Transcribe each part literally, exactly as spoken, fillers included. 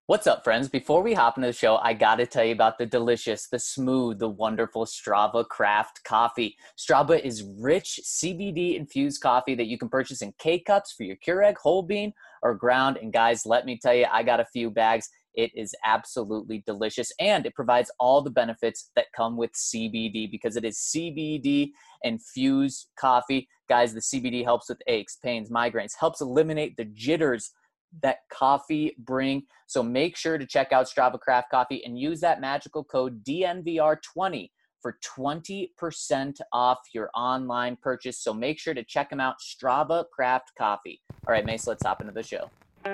What's up, friends? Before we hop into the show, I got to tell you about the delicious, the smooth, the wonderful Strava Craft Coffee. Strava is rich C B D-infused coffee that you can purchase in K-Cups for your Keurig, whole bean, or ground. And guys, let me tell you, I got a few bags. It is absolutely delicious, and it provides all the benefits that come with C B D because it is C B D-infused coffee. Guys, the C B D helps with aches, pains, migraines, helps eliminate the jitters that coffee bring. So make sure to check out Strava Craft Coffee and use that magical code D N V R twenty for twenty percent off your online purchase. So make sure to check them out, Strava Craft Coffee. All right, Mace, let's hop into the show.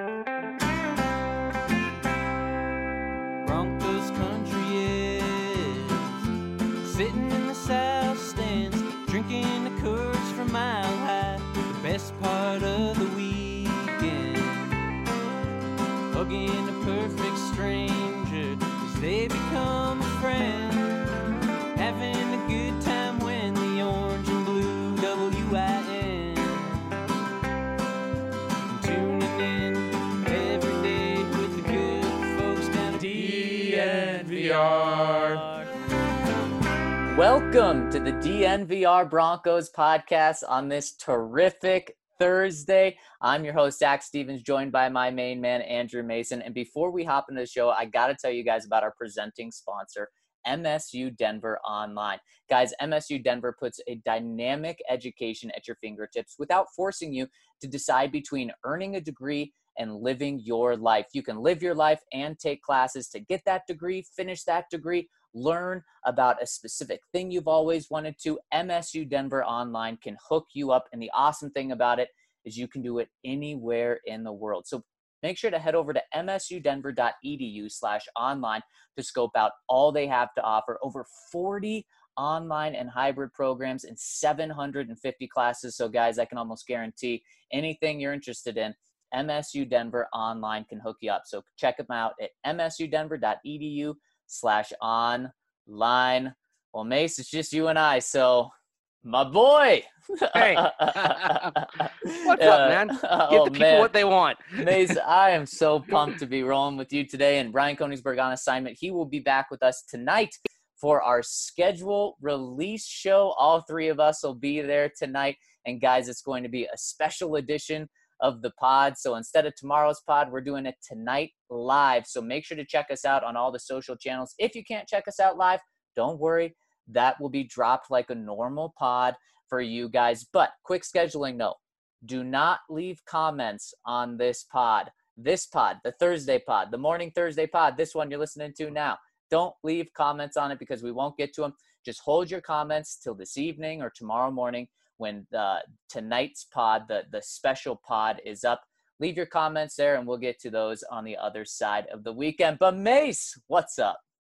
Broncos country is sitting in the south stands, drinking the Coors from Mile High, the best part of the weekend. Hugging a perfect stranger as they become a friend, having a good time when the orange and blue W I N, and tuning in every day with the good folks down at D N V R. Welcome to the D N V R Broncos podcast on this terrific Thursday. I'm your host, Zach Stevens, joined by my main man, Andrew Mason. And before we hop into the show, I got to tell you guys about our presenting sponsor, M S U Denver Online. Guys, M S U Denver puts a dynamic education at your fingertips without forcing you to decide between earning a degree and living your life. You can live your life and take classes to get that degree, finish that degree, learn about a specific thing you've always wanted to. M S U Denver Online can hook you up. And the awesome thing about it is you can do it anywhere in the world. So make sure to head over to msudenver.edu slash online to scope out all they have to offer. Over forty online and hybrid programs and seven hundred fifty classes. So guys, I can almost guarantee anything you're interested in, M S U Denver Online can hook you up. So check them out at msudenver.edu slash online. Well, Mace, it's just you and I. So my boy. Hey, what's uh, up, man? Give oh, the people man. what they want. Mace, I am so pumped to be rolling with you today. And Brian Konigsberg on assignment. He will be back with us tonight for our schedule release show. All three of us will be there tonight. And guys, it's going to be a special edition of the pod. So instead of tomorrow's pod, we're doing it tonight live. So make sure to check us out on all the social channels. If you can't check us out live, don't worry. That will be dropped like a normal pod for you guys. But quick scheduling note, do not leave comments on this pod. This pod, the Thursday pod, the morning Thursday pod, this one you're listening to now. Don't leave comments on it because we won't get to them. Just hold your comments till this evening or tomorrow morning when uh, tonight's pod, the, the special pod is up. Leave your comments there and we'll get to those on the other side of the weekend. But Mace, what's up?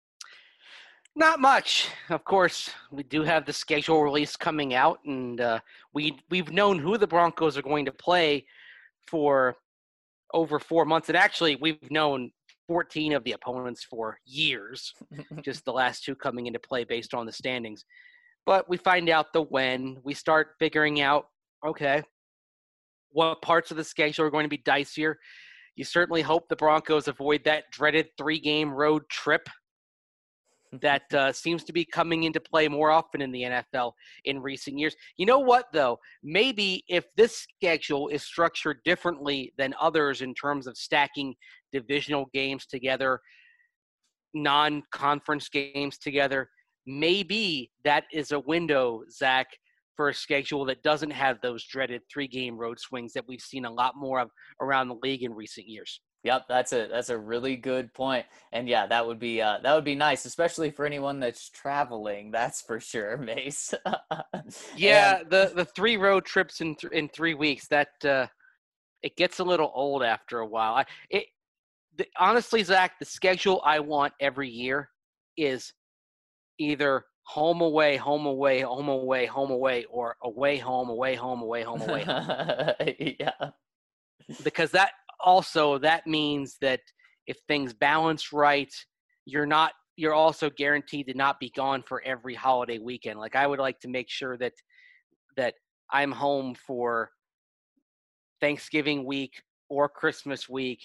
Not much. Of course, we do have the schedule release coming out, and uh, we, we've known who the Broncos are going to play for over four months. And actually, we've known fourteen of the opponents for years, just the last two coming into play based on the standings. But we find out the when. We start figuring out, okay, what parts of the schedule are going to be dicier. You certainly hope the Broncos avoid that dreaded three-game road trip that uh, seems to be coming into play more often in the N F L in recent years. You know what, though? Maybe if this schedule is structured differently than others in terms of stacking divisional games together, non-conference games together, maybe that is a window, Zach, for a schedule that doesn't have those dreaded three-game road swings that we've seen a lot more of around the league in recent years. Yep, that's a that's a really good point. And yeah, that would be uh, that would be nice, especially for anyone that's traveling. That's for sure, Mace. yeah, and, the the three road trips in th- in three weeks that uh, it gets a little old after a while. I, it the, honestly, Zach, the schedule I want every year is either home away, home away, home away, home away, or away home, away home, away home, away home. yeah. Because that also that means that if things balance right, you're not you're also guaranteed to not be gone for every holiday weekend. Like I would like to make sure that that I'm home for Thanksgiving week or Christmas week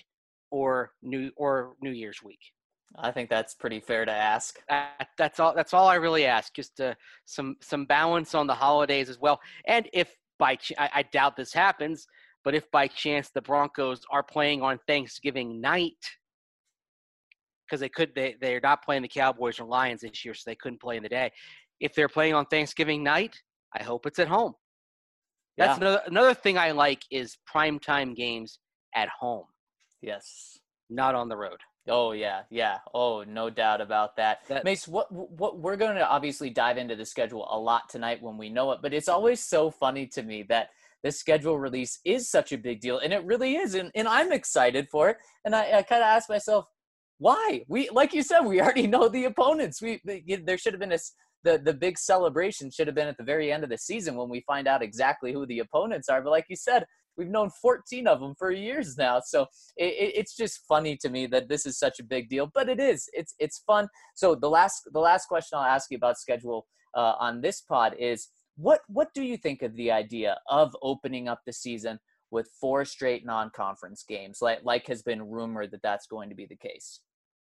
or New or New Year's week. I think that's pretty fair to ask. That, that's all. That's all I really ask. Just uh, some some balance on the holidays as well. And if by ch- I, I doubt this happens, but if by chance the Broncos are playing on Thanksgiving night, because they could they they're not playing the Cowboys or Lions this year, so they couldn't play in the day. If they're playing on Thanksgiving night, I hope it's at home. That's Yeah. another another thing I like is primetime games at home, Yes. not on the road. Oh yeah, yeah. Oh, no doubt about that. That- Mace, what what we're going to obviously dive into the schedule a lot tonight when we know it, but it's always so funny to me that this schedule release is such a big deal, and it really is, and, and I'm excited for it. And I, I kind of ask myself, why? We, like you said, we already know the opponents. We there should have been a the the big celebration should have been at the very end of the season when we find out exactly who the opponents are. But like you said, we've known fourteen of them for years now. So it, it's just funny to me that this is such a big deal, but it is. It's it's fun. So the last the last question I'll ask you about schedule uh, on this pod is what what do you think of the idea of opening up the season with four straight non-conference games, like like has been rumored that that's going to be the case?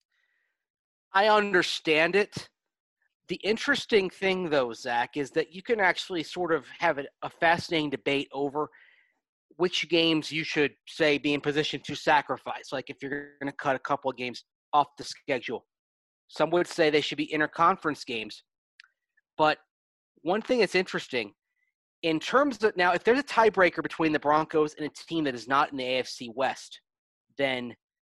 I understand it. The interesting thing, though, Zach, is that you can actually sort of have a, a fascinating debate over which games you should, say, be in position to sacrifice. Like if you're going to cut a couple of games off the schedule. Some would say they should be interconference games. But one thing that's interesting, in terms of – now, if there's a tiebreaker between the Broncos and a team that is not in the A F C West, then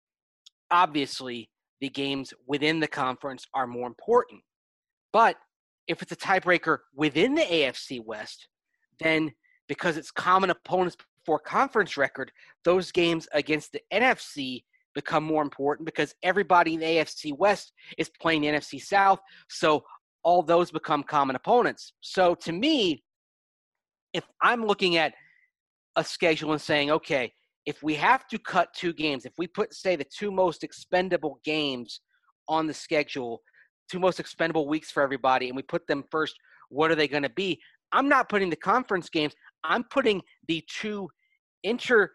obviously the games within the conference are more important. But if it's a tiebreaker within the A F C West, then because it's common opponents for conference record, those games against the N F C become more important because everybody in the A F C West is playing the N F C South. So all those become common opponents. So to me, if I'm looking at a schedule and saying, okay, if we have to cut two games, if we put, say, the two most expendable games on the schedule, two most expendable weeks for everybody, and we put them first, what are they going to be? I'm not putting the conference games. I'm putting the two inter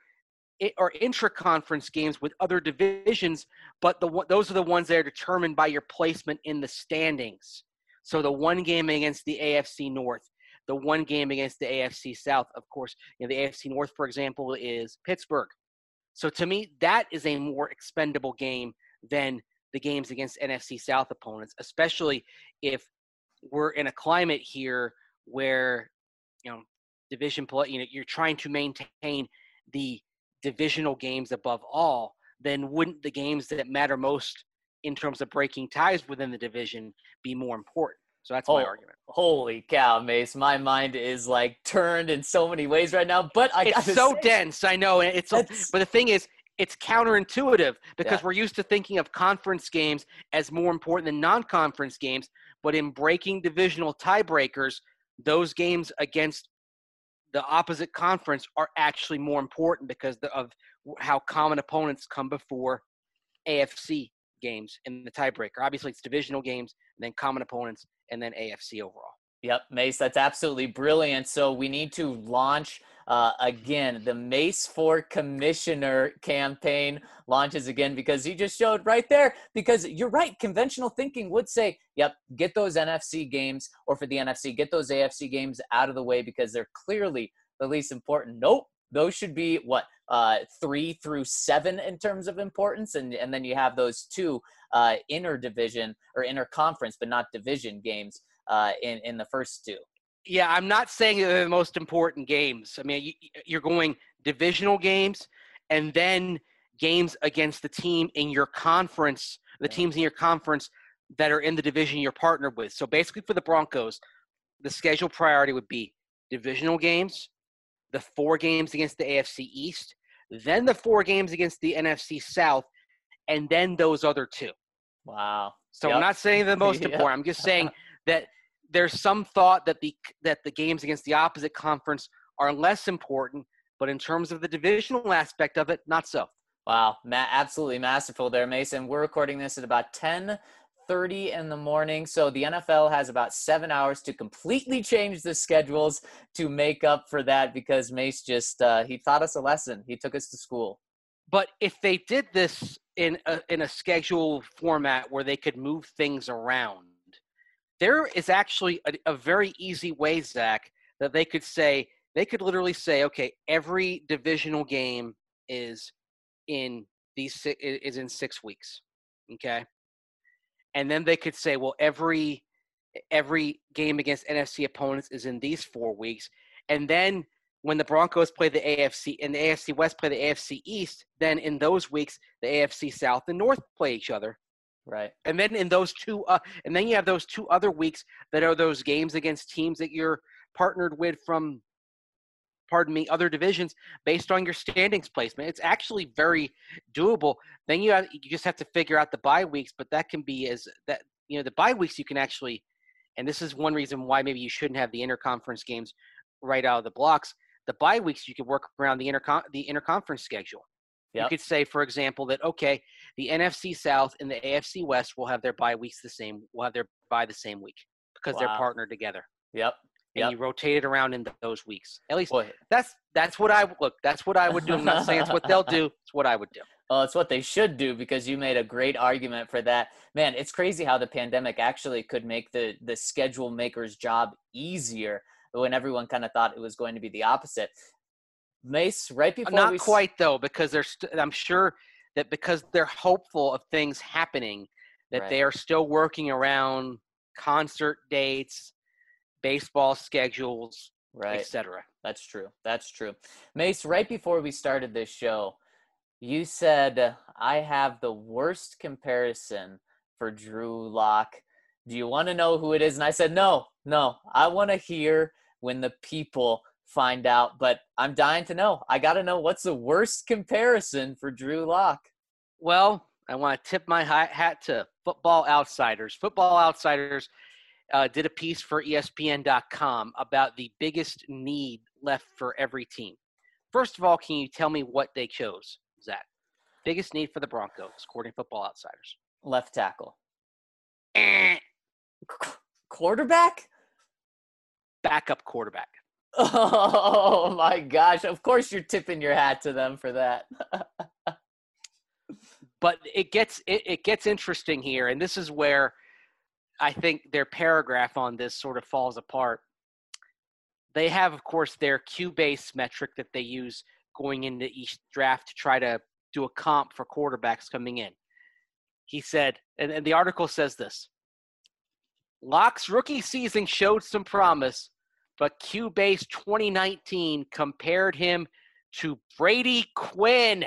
or intra-conference games with other divisions, but the those are the ones that are determined by your placement in the standings. So the one game against the A F C North, the one game against the A F C South, of course, you know, the A F C North, for example, is Pittsburgh. So to me, that is a more expendable game than the games against N F C South opponents, especially if we're in a climate here where, you know, division play, you know, you're trying to maintain the divisional games above all, then wouldn't the games that matter most in terms of breaking ties within the division be more important? So that's oh, my argument. Holy cow, Mace. My mind is like turned in so many ways right now, but I It's gotta so say, dense, I know. And it's, but the thing is, it's counterintuitive because Yeah. we're used to thinking of conference games as more important than non-conference games. But in breaking divisional tiebreakers, those games against the opposite conference are actually more important because of how common opponents come before A F C games in the tiebreaker. Obviously, it's divisional games, and then common opponents, and then A F C overall. Yep, Mace, that's absolutely brilliant. So we need to launch uh, again. The Mace for Commissioner campaign launches again because you just showed right there. Because you're right, conventional thinking would say, yep, get those N F C games, or for the N F C, get those A F C games out of the way because they're clearly the least important. Nope, those should be what uh, three through seven in terms of importance, and and then you have those two uh, inter division or inter conference, but not division games. Uh, in, in the first two. Yeah, I'm not saying they're the most important games. I mean, you, you're going divisional games and then games against the team in your conference, the Yeah. teams in your conference that are in the division you're partnered with. So basically for the Broncos, the schedule priority would be divisional games, the four games against the A F C East, then the four games against the N F C South, and then those other two. Wow. So Yep. I'm not saying they're the most Yep. important. I'm just saying that there's some thought that the that the games against the opposite conference are less important, but in terms of the divisional aspect of it, not so. Wow, ma- absolutely masterful there, Mason. We're recording this at about ten thirty in the morning, so the N F L has about seven hours to completely change the schedules to make up for that because Mace just uh, he taught us a lesson. He took us to school. But if they did this in a, in a schedule format where they could move things around, there is actually a, a very easy way, Zach, that they could say, they could literally say, okay, every divisional game is in these is in six weeks, okay? And then they could say, well, every every game against N F C opponents is in these four weeks. And then when the Broncos play the A F C and the A F C West play the A F C East, then in those weeks, the A F C South and North play each other. Right. And then in those two, uh, and then you have those two other weeks that are those games against teams that you're partnered with from, pardon me, other divisions based on your standings placement. It's actually very doable. Then you have, you just have to figure out the bye weeks, but that can be as that, you know, the bye weeks you can actually, and this is one reason why maybe you shouldn't have the interconference games right out of the blocks. The bye weeks, you could work around the intercon the interconference schedule. Yep. You could say, for example, that, okay, the N F C South and the A F C West will have their bye weeks the same, will have their bye the same week because wow. they're partnered together. Yep. And yep. you rotate it around in those weeks. At least Boy. that's that's what I look. That's what I would do. I'm not saying it's what they'll do. It's what I would do. Well, it's what they should do because you made a great argument for that. Man, it's crazy how the pandemic actually could make the the schedule maker's job easier when everyone kind of thought it was going to be the opposite. Mace, right before not we quite though, because they're st- I'm sure that because they're hopeful of things happening, that right. they are still working around concert dates, baseball schedules, right. et cetera. That's true. That's true. Mace, right before we started this show, you said, I have the worst comparison for Drew Lock. Do you want to know who it is? And I said, no, no. I want to hear when the people find out, but I'm dying to know. I got to know what's the worst comparison for Drew Lock. Well, I want to tip my hat to Football Outsiders. Football Outsiders uh, did a piece for E S P N dot com about the biggest need left for every team. First of all, can you tell me what they chose, Zach? Biggest need for the Broncos, according to Football Outsiders. Left tackle. Eh. Qu- quarterback? Backup quarterback. Oh, my gosh. Of course you're tipping your hat to them for that. But it gets it, it gets interesting here, and this is where I think their paragraph on this sort of falls apart. They have, of course, their Q-base metric that they use going into each draft to try to do a comp for quarterbacks coming in. He said, and, and the article says this, Lock's rookie season showed some promise, but Q-base twenty nineteen compared him to Brady Quinn.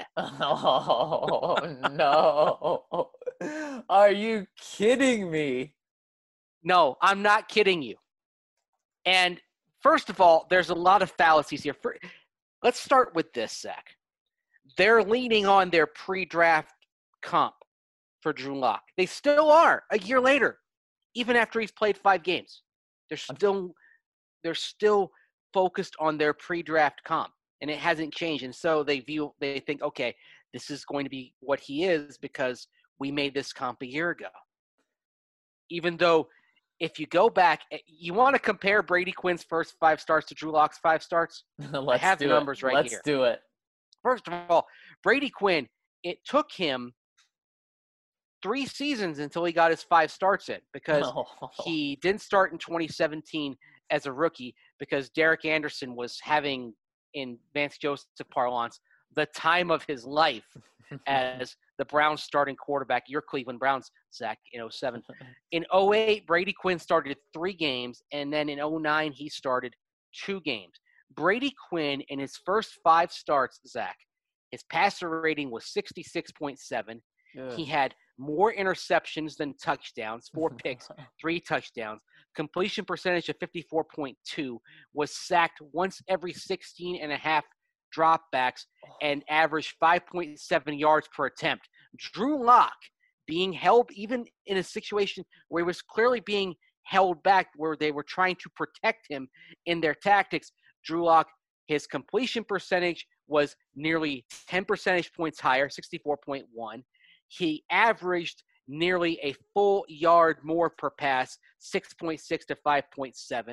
Oh, no. Are you kidding me? No, I'm not kidding you. And first of all, there's a lot of fallacies here. For, let's start with this, Zach. They're leaning on their pre-draft comp for Drew Lock. They still are a year later, even after he's played five games. They're still they're still focused on their pre-draft comp, and it hasn't changed. And so they view they think, okay, this is going to be what he is because we made this comp a year ago. Even though if you go back, you want to compare Brady Quinn's first five starts to Drew Lock's five starts? I have the numbers it. right Let's here. Let's do it. First of all, Brady Quinn, it took him three seasons until he got his five starts in because oh. he didn't start in twenty seventeen as a rookie because Derek Anderson was having, in Vance Joseph parlance, the time of his life as the Browns starting quarterback, your Cleveland Browns, Zach, in oh seven. In oh eight, Brady Quinn started three games, and then in oh nine, he started two games. Brady Quinn, in his first five starts, Zach, his passer rating was sixty-six point seven. Yeah. He had more interceptions than touchdowns, four picks, three touchdowns. Completion percentage of fifty-four point two, was sacked once every sixteen and a half dropbacks, and averaged five point seven yards per attempt. Drew Lock being held, even in a situation where he was clearly being held back, where they were trying to protect him in their tactics, Drew Lock, his completion percentage was nearly ten percentage points higher, sixty-four point one. He averaged nearly a full yard more per pass, six point six to five point seven.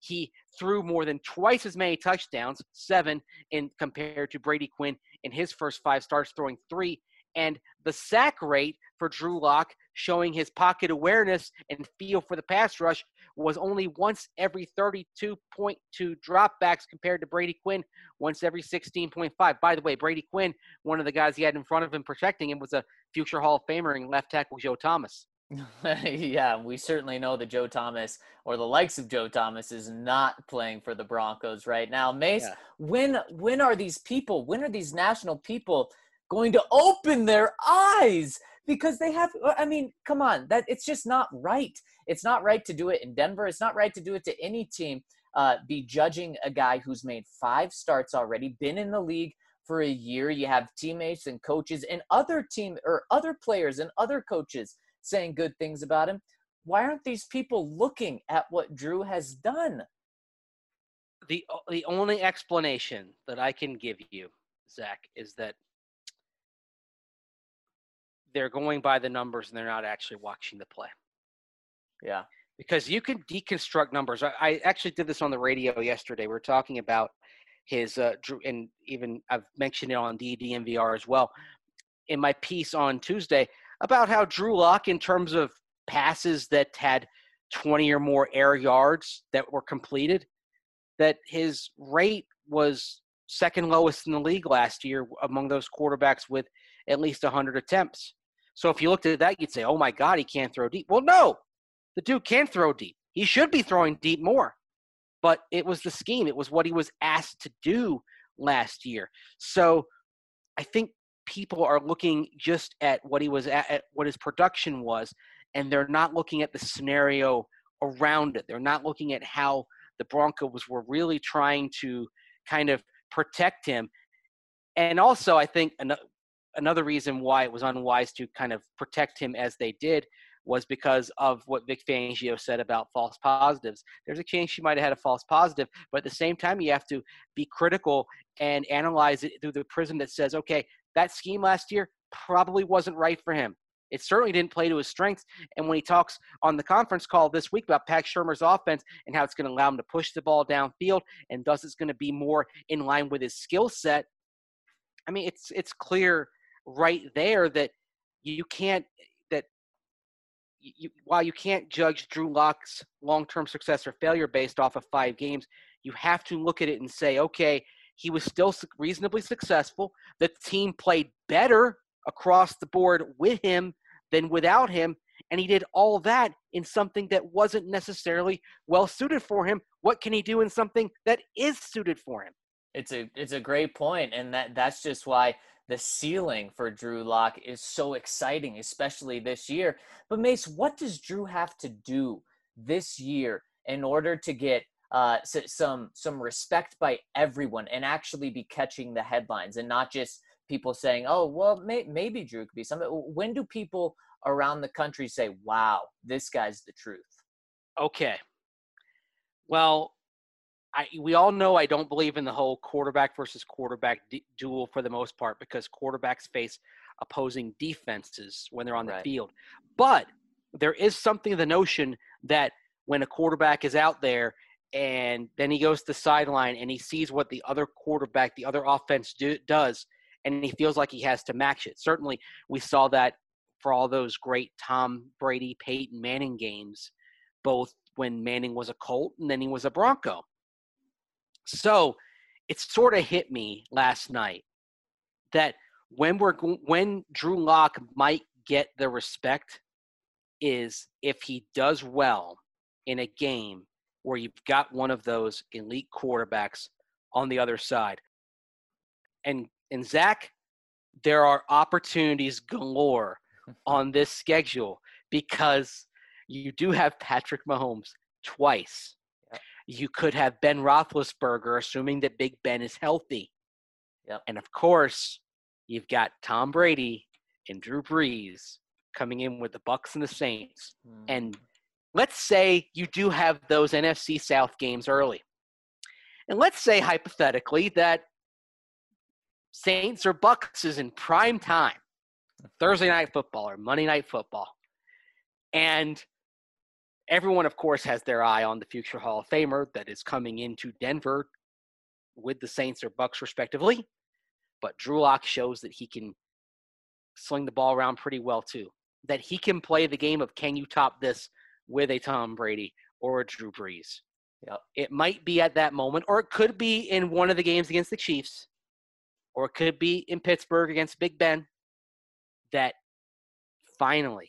He threw more than twice as many touchdowns, seven, in compared to Brady Quinn in his first five starts, throwing three. And the sack rate for Drew Lock, showing his pocket awareness and feel for the pass rush, was only once every thirty-two point two dropbacks compared to Brady Quinn, once every sixteen point five. By the way, Brady Quinn, one of the guys he had in front of him protecting him, was a future Hall of Famer in left tackle Joe Thomas. Yeah, we certainly know that Joe Thomas, or the likes of Joe Thomas, is not playing for the Broncos right now. Mace, Yeah. when when are these people, when are these national people going to open their eyes? Because they have, I mean, come on, that it's just not right. It's not right to do it in Denver. It's not right to do it to any team. Uh, be judging a guy who's made five starts already, been in the league for a year. You have teammates and coaches and other team or other players and other coaches saying good things about him. Why aren't these people looking at what Drew has done? The the only explanation that I can give you, Zach, is that they're going by the numbers and they're not actually watching the play. Yeah. Because you can deconstruct numbers. I, I actually did this on the radio yesterday. We were talking about his, uh, Drew, and even I've mentioned it on D D M V R as well, in my piece on Tuesday, about how Drew Lock, in terms of passes that had twenty or more air yards that were completed, that his rate was second lowest in the league last year among those quarterbacks with at least one hundred attempts. So if you looked at that, you'd say, oh my God, he can't throw deep. Well, no, the dude can throw deep. He should be throwing deep more. But it was the scheme. It was what he was asked to do last year. So I think people are looking just at what he was at, at what his production was, and they're not looking at the scenario around it. They're not looking at how the Broncos were really trying to kind of protect him. And also, I think an- another reason why it was unwise to kind of protect him as they did was because of what Vic Fangio said about false positives. There's a chance she might have had a false positive, but at the same time, you have to be critical and analyze it through the prism that says, okay, that scheme last year probably wasn't right for him. It certainly didn't play to his strengths. And when he talks on the conference call this week about Pat Shurmur's offense and how it's going to allow him to push the ball downfield and thus it's going to be more in line with his skill set, I mean, it's it's clear right there that you can't that you, while you can't judge Drew Lock's long-term success or failure based off of five games, you have to look at it and say, okay, he was still reasonably successful. The team played better across the board with him than without him, and he did all that in something that wasn't necessarily well suited for him. What can he do in something that is suited for him? It's a it's a great point, and that that's just why the ceiling for Drew Lock is so exciting, especially this year. But Mace, what does Drew have to do this year in order to get uh, some some respect by everyone and actually be catching the headlines and not just people saying, "Oh, well, may, maybe Drew could be something"? When do people around the country say, "Wow, this guy's the truth"? Okay. Well, I, we all know I don't believe in the whole quarterback versus quarterback d- duel for the most part because quarterbacks face opposing defenses when they're on the Right. field. But there is something to the notion that when a quarterback is out there and then he goes to the sideline and he sees what the other quarterback, the other offense do, does, and he feels like he has to match it. Certainly we saw that for all those great Tom Brady, Peyton Manning games, both when Manning was a Colt and then he was a Bronco. So it sort of hit me last night that when we're when Drew Lock might get the respect is if he does well in a game where you've got one of those elite quarterbacks on the other side. And and Zach, there are opportunities galore on this schedule because you do have Patrick Mahomes twice. You could have Ben Roethlisberger, assuming that Big Ben is healthy. Yep. And, of course, you've got Tom Brady and Drew Brees coming in with the Bucs and the Saints. Mm. And let's say you do have those N F C South games early. And let's say, hypothetically, that Saints or Bucs is in prime time, Thursday night football or Monday night football. And Everyone, of course, has their eye on the future Hall of Famer that is coming into Denver with the Saints or Bucks, respectively. But Drew Lock shows that he can sling the ball around pretty well, too. That he can play the game of can you top this with a Tom Brady or a Drew Brees. Yep. It might be at that moment, or it could be in one of the games against the Chiefs, or it could be in Pittsburgh against Big Ben, that finally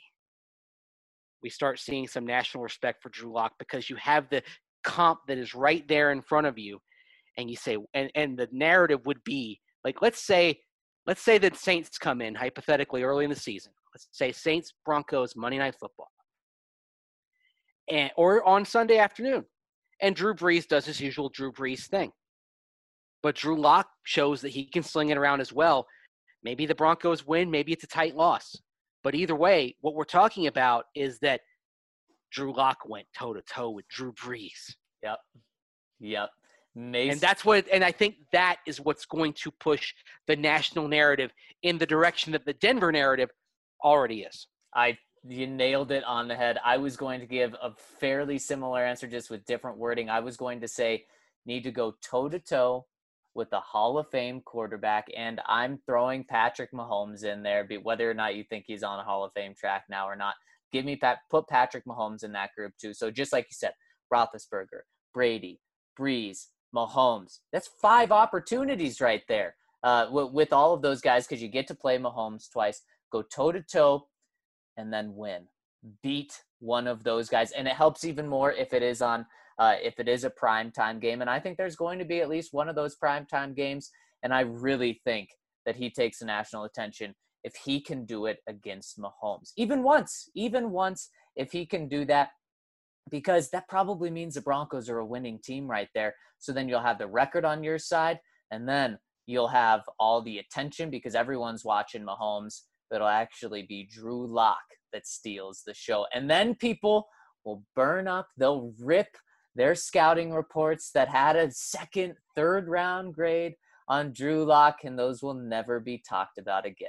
we start seeing some national respect for Drew Lock, because you have the comp that is right there in front of you, and you say, and, and the narrative would be, like, let's say, let's say that Saints come in, hypothetically, early in the season. Let's say Saints, Broncos, Monday Night Football, and or on Sunday afternoon. And Drew Brees does his usual Drew Brees thing. But Drew Lock shows that he can sling it around as well. Maybe the Broncos win, maybe it's a tight loss. But either way, what we're talking about is that Drew Lock went toe-to-toe with Drew Brees. Yep. Yep. Mason. And that's what, and I think that is what's going to push the national narrative in the direction that the Denver narrative already is. I You nailed it on the head. I was going to give a fairly similar answer, just with different wording. I was going to say, need to go toe-to-toe with the Hall of Fame quarterback, and I'm throwing Patrick Mahomes in there, whether or not you think he's on a Hall of Fame track now or not. Give me Pat, put Patrick Mahomes in that group too. So just like you said, Roethlisberger, Brady, Brees, Mahomes. That's five opportunities right there uh, with, with all of those guys, because you get to play Mahomes twice. Go toe-to-toe and then win. Beat one of those guys. And it helps even more if it is on uh, if it is a primetime game. And I think there's going to be at least one of those primetime games. And I really think that he takes the national attention if he can do it against Mahomes. Even once, even once, if he can do that, because that probably means the Broncos are a winning team right there. So then you'll have the record on your side, and then you'll have all the attention because everyone's watching Mahomes. But it'll actually be Drew Lock that steals the show. And then people will burn up, they'll rip their scouting reports that had a second, third round grade on Drew Lock, and those will never be talked about again.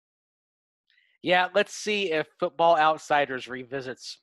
Yeah, let's see if Football Outsiders revisits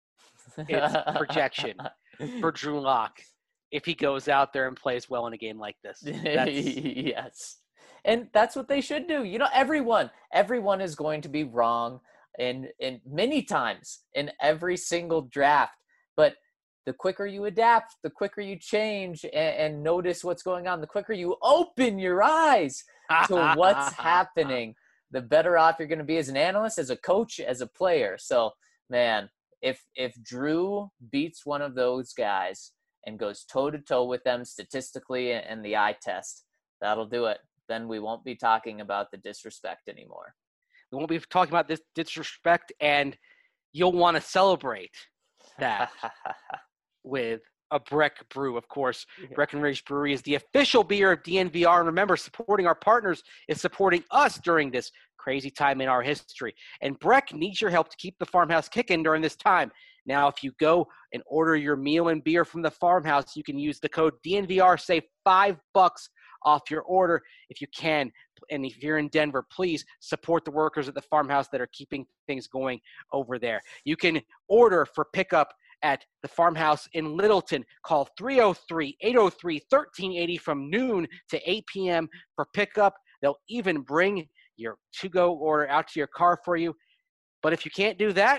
its projection for Drew Lock if he goes out there and plays well in a game like this. That's... Yes. And that's what they should do. You know, everyone, everyone is going to be wrong in, in many times in every single draft. But the quicker you adapt, the quicker you change and, and notice what's going on, the quicker you open your eyes to what's happening, the better off you're going to be as an analyst, as a coach, as a player. So, man, if if Drew beats one of those guys and goes toe-to-toe with them statistically and the eye test, that'll do it. Then we won't be talking about the disrespect anymore. We won't be talking about this disrespect, and you'll want to celebrate that with a Breck Brew. Of course, yeah. Breckenridge Brewery is the official beer of D N V R. And remember, supporting our partners is supporting us during this crazy time in our history. And Breck needs your help to keep the farmhouse kicking during this time. Now, if you go and order your meal and beer from the farmhouse, you can use the code D N V R, save five bucks off your order if you can. And if you're in Denver, please support the workers at the farmhouse that are keeping things going over there. You can order for pickup at the farmhouse in Littleton. Call three oh three, eight oh three, one three eight oh from noon to eight p.m. for pickup. They'll even bring your to-go order out to your car for you. But if you can't do that,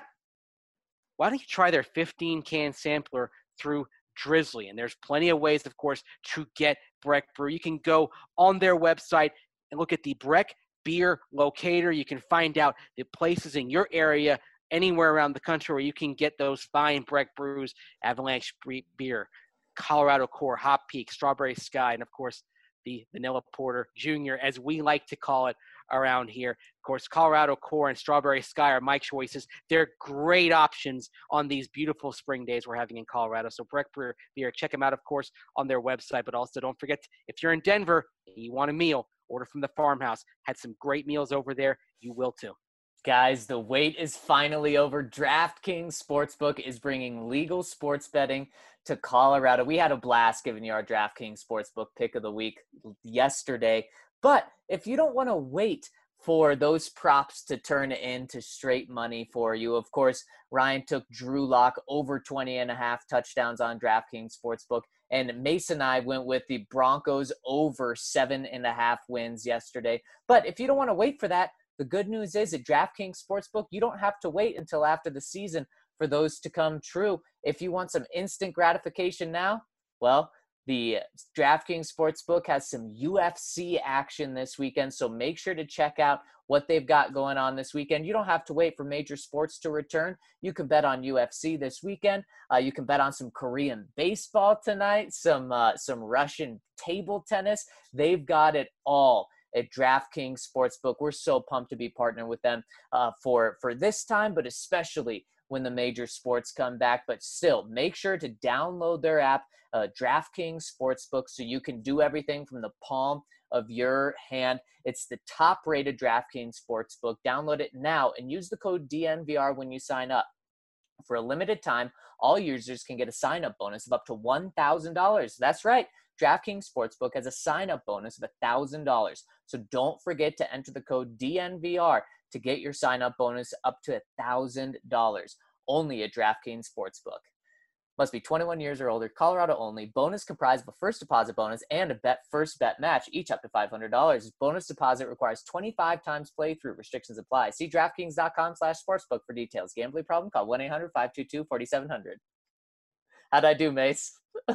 why don't you try their fifteen-can sampler through Drizzly? And there's plenty of ways, of course, to get Breck Brew. You can go on their website and look at the Breck Beer Locator. You can find out the places in your area, anywhere around the country, where you can get those fine Breck Brews, Avalanche Beer, Colorado Core, Hop Peak, Strawberry Sky, and, of course, the Vanilla Porter Junior, as we like to call it around here. Of course, Colorado Core and Strawberry Sky are my choices. They're great options on these beautiful spring days we're having in Colorado. So Breck Beer, check them out, of course, on their website. But also don't forget, if you're in Denver and you want a meal, order from the farmhouse. Had some great meals over there. You will too. Guys, the wait is finally over. DraftKings Sportsbook is bringing legal sports betting to Colorado. We had a blast giving you our DraftKings Sportsbook pick of the week yesterday. But if you don't want to wait for those props to turn into straight money for you. Of course, Ryan took Drew Lock over twenty and a half touchdowns on DraftKings Sportsbook. And Mason and I went with the Broncos over seven and a half wins yesterday. But if you don't want to wait for that, the good news is at DraftKings Sportsbook, you don't have to wait until after the season for those to come true. If you want some instant gratification now, well, the DraftKings Sportsbook has some U F C action this weekend, so make sure to check out what they've got going on this weekend. You don't have to wait for major sports to return. You can bet on U F C this weekend. Uh, you can bet on some Korean baseball tonight, some uh, some Russian table tennis. They've got it all at DraftKings Sportsbook. We're so pumped to be partnering with them uh, for, for this time, but especially when the major sports come back. But still, make sure to download their app, uh, DraftKings Sportsbook, so you can do everything from the palm of your hand. It's the top-rated DraftKings Sportsbook. Download it now and use the code D N V R when you sign up. For a limited time, all users can get a sign-up bonus of up to one thousand dollars. That's right. DraftKings Sportsbook has a sign-up bonus of one thousand dollars. So don't forget to enter the code D N V R to get your sign-up bonus up to one thousand dollars. Only at DraftKings Sportsbook. Must be twenty-one years or older, Colorado only. Bonus comprised of a first deposit bonus and a bet first bet match, each up to five hundred dollars. Bonus deposit requires twenty-five times playthrough. Restrictions apply. See DraftKings.com slash sportsbook for details. Gambling problem? Call one eight hundred five two two four seven zero zero. How'd I do, Mace?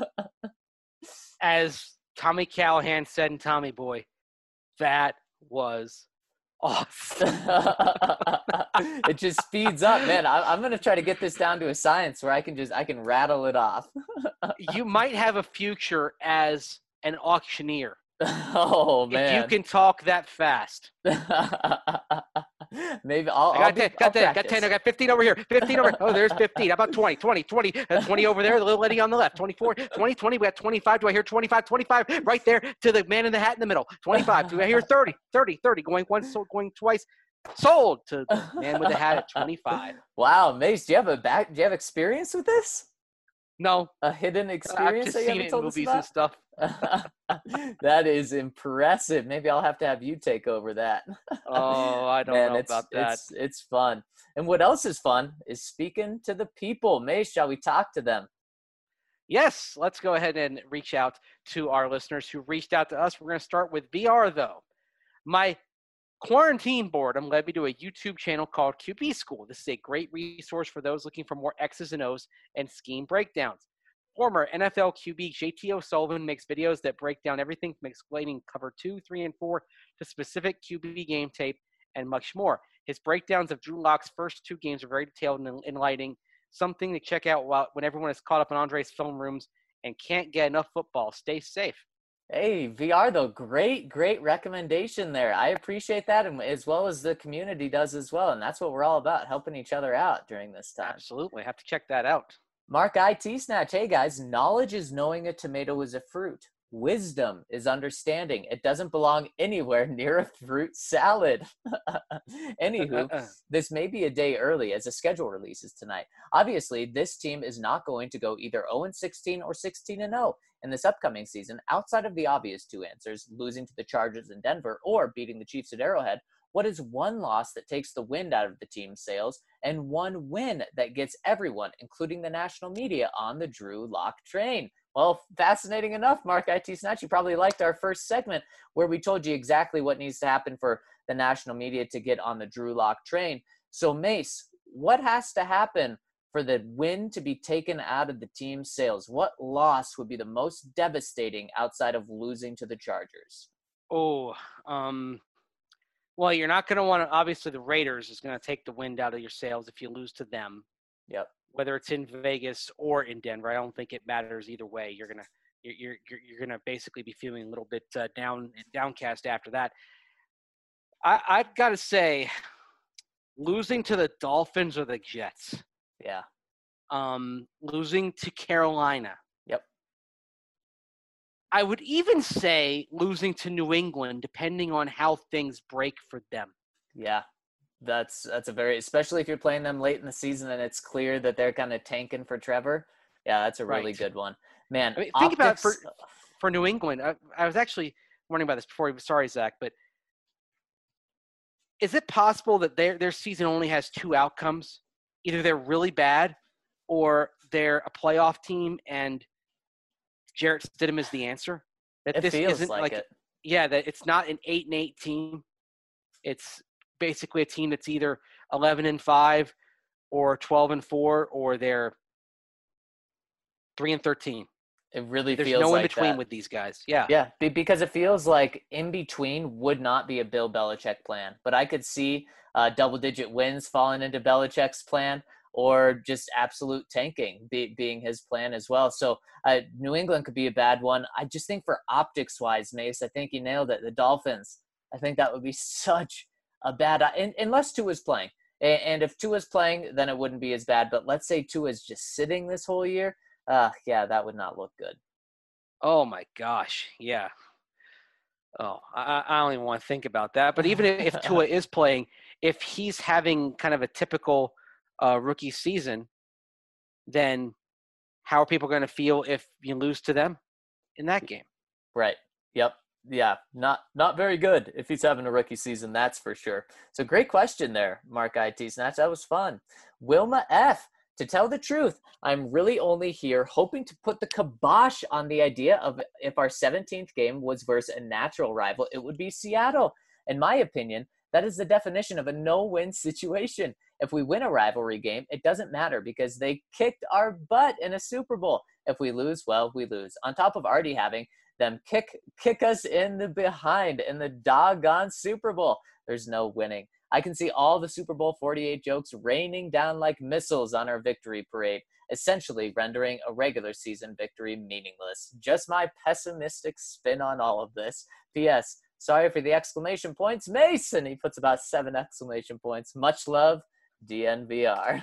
As Tommy Callahan said in Tommy Boy, that was awesome. It just speeds up, man. I, I'm going to try to get this down to a science where I can just, I can rattle it off. You might have a future as an auctioneer. Oh, man. If you can talk that fast. Maybe I'll, I got I'll be, ten, I'll got ten, got ten, I got fifteen over here, fifteen over, oh, there's fifteen. How about twenty, twenty, twenty, uh, twenty over there, the little lady on the left, twenty-four, twenty, twenty, we got twenty-five, do I hear twenty-five, twenty-five, right there to the man in the hat in the middle, twenty-five, do I hear thirty, thirty, thirty, going once, going twice, sold to the man with the hat at twenty-five. Wow, Mace, do you have a back, do you have experience with this? No. A hidden experience I've just that you seen haven't it in told us movies about? and stuff. That is impressive. Maybe I'll have to have you take over that. Oh, I don't Man, know it's, about that. It's, it's fun. And what else is fun is speaking to the people. Mace, shall we talk to them? Yes, let's go ahead and reach out to our listeners who reached out to us. We're going to start with V R, though. My quarantine boredom led me to a YouTube channel called Q B School. This is a great resource for those looking for more X's and O's and scheme breakdowns. Former N F L Q B J T O'Sullivan makes videos that break down everything from explaining cover two, three, and four to specific Q B game tape and much more. His breakdowns of Drew Lock's first two games are very detailed and enlightening, something to check out while, when everyone is caught up in Andre's film rooms and can't get enough football. Stay safe. Hey, V R, though, great, great recommendation there. I appreciate that, and as well as the community does as well. And that's what we're all about, helping each other out during this time. Absolutely. Have to check that out. Mark I T Snatch. Hey, guys, knowledge is knowing a tomato is a fruit. Wisdom is understanding. It doesn't belong anywhere near a fruit salad. Anywho, this may be a day early as the schedule releases tonight. Obviously, this team is not going to go either oh and sixteen or sixteen and oh in this upcoming season, outside of the obvious two answers, losing to the Chargers in Denver or beating the Chiefs at Arrowhead. What is one loss that takes the wind out of the team's sails and one win that gets everyone, including the national media, on the Drew Lock train? Well, fascinating enough, Mark I T Snatch. You probably liked our first segment where we told you exactly what needs to happen for the national media to get on the Drew Lock train. So, Mace, what has to happen for the win to be taken out of the team's sails? What loss would be the most devastating outside of losing to the Chargers? Oh, um, well, you're not going to want to – obviously the Raiders is going to take the wind out of your sails if you lose to them. Yep. Whether it's in Vegas or in Denver, I don't think it matters either way. You're gonna you're you're you're gonna basically be feeling a little bit uh, down downcast after that. I I've got to say, losing to the Dolphins or the Jets, yeah, um, losing to Carolina. Yep. I would even say losing to New England, depending on how things break for them. Yeah. That's that's a very, especially if you're playing them late in the season and it's clear that they're kind of tanking for Trevor. Yeah, that's a really Right. good one, man. I mean, think about it for optics- for New England. I, I was actually wondering about this before. Sorry, Zach, but is it possible that their their season only has two outcomes? Either they're really bad, or they're a playoff team, and Jarrett Stidham is the answer. That It this feels isn't like like, it. yeah, that it's not an eight and eight team. It's basically a team that's either eleven and five, or twelve and four, or they're three and thirteen. It really There's feels no in like between that. with these guys. Yeah. Yeah, be- because it feels like in between would not be a Bill Belichick plan. But I could see uh, double-digit wins falling into Belichick's plan, or just absolute tanking be- being his plan as well. So uh, New England could be a bad one. I just think for optics-wise, Mace, I think you nailed it. The Dolphins, I think that would be such a bad – unless Tua's playing. A- And if Tua's playing, then it wouldn't be as bad. But let's say Tua's just sitting this whole year. Uh, yeah, that would not look good. Oh my gosh. Yeah. Oh, I, I don't even want to think about that. But even if Tua is playing, if he's having kind of a typical uh, rookie season, then how are people going to feel if you lose to them in that game? Right. Yep. Yeah. Not not very good if he's having a rookie season, that's for sure. So great question there, Mark I T Snatch. That was fun. Wilma F. To tell the truth, I'm really only here hoping to put the kibosh on the idea of if our seventeenth game was versus a natural rival, it would be Seattle. In my opinion, that is the definition of a no-win situation. If we win a rivalry game, it doesn't matter because they kicked our butt in a Super Bowl. If we lose, well, we lose. On top of already having them kick kick us in the behind in the doggone Super Bowl, there's no winning. I can see all the Super Bowl forty-eight jokes raining down like missiles on our victory parade, essentially rendering a regular season victory meaningless. Just my pessimistic spin on all of this. P S. Sorry for the exclamation points, Mason. He puts about seven exclamation points. Much love, D N V R.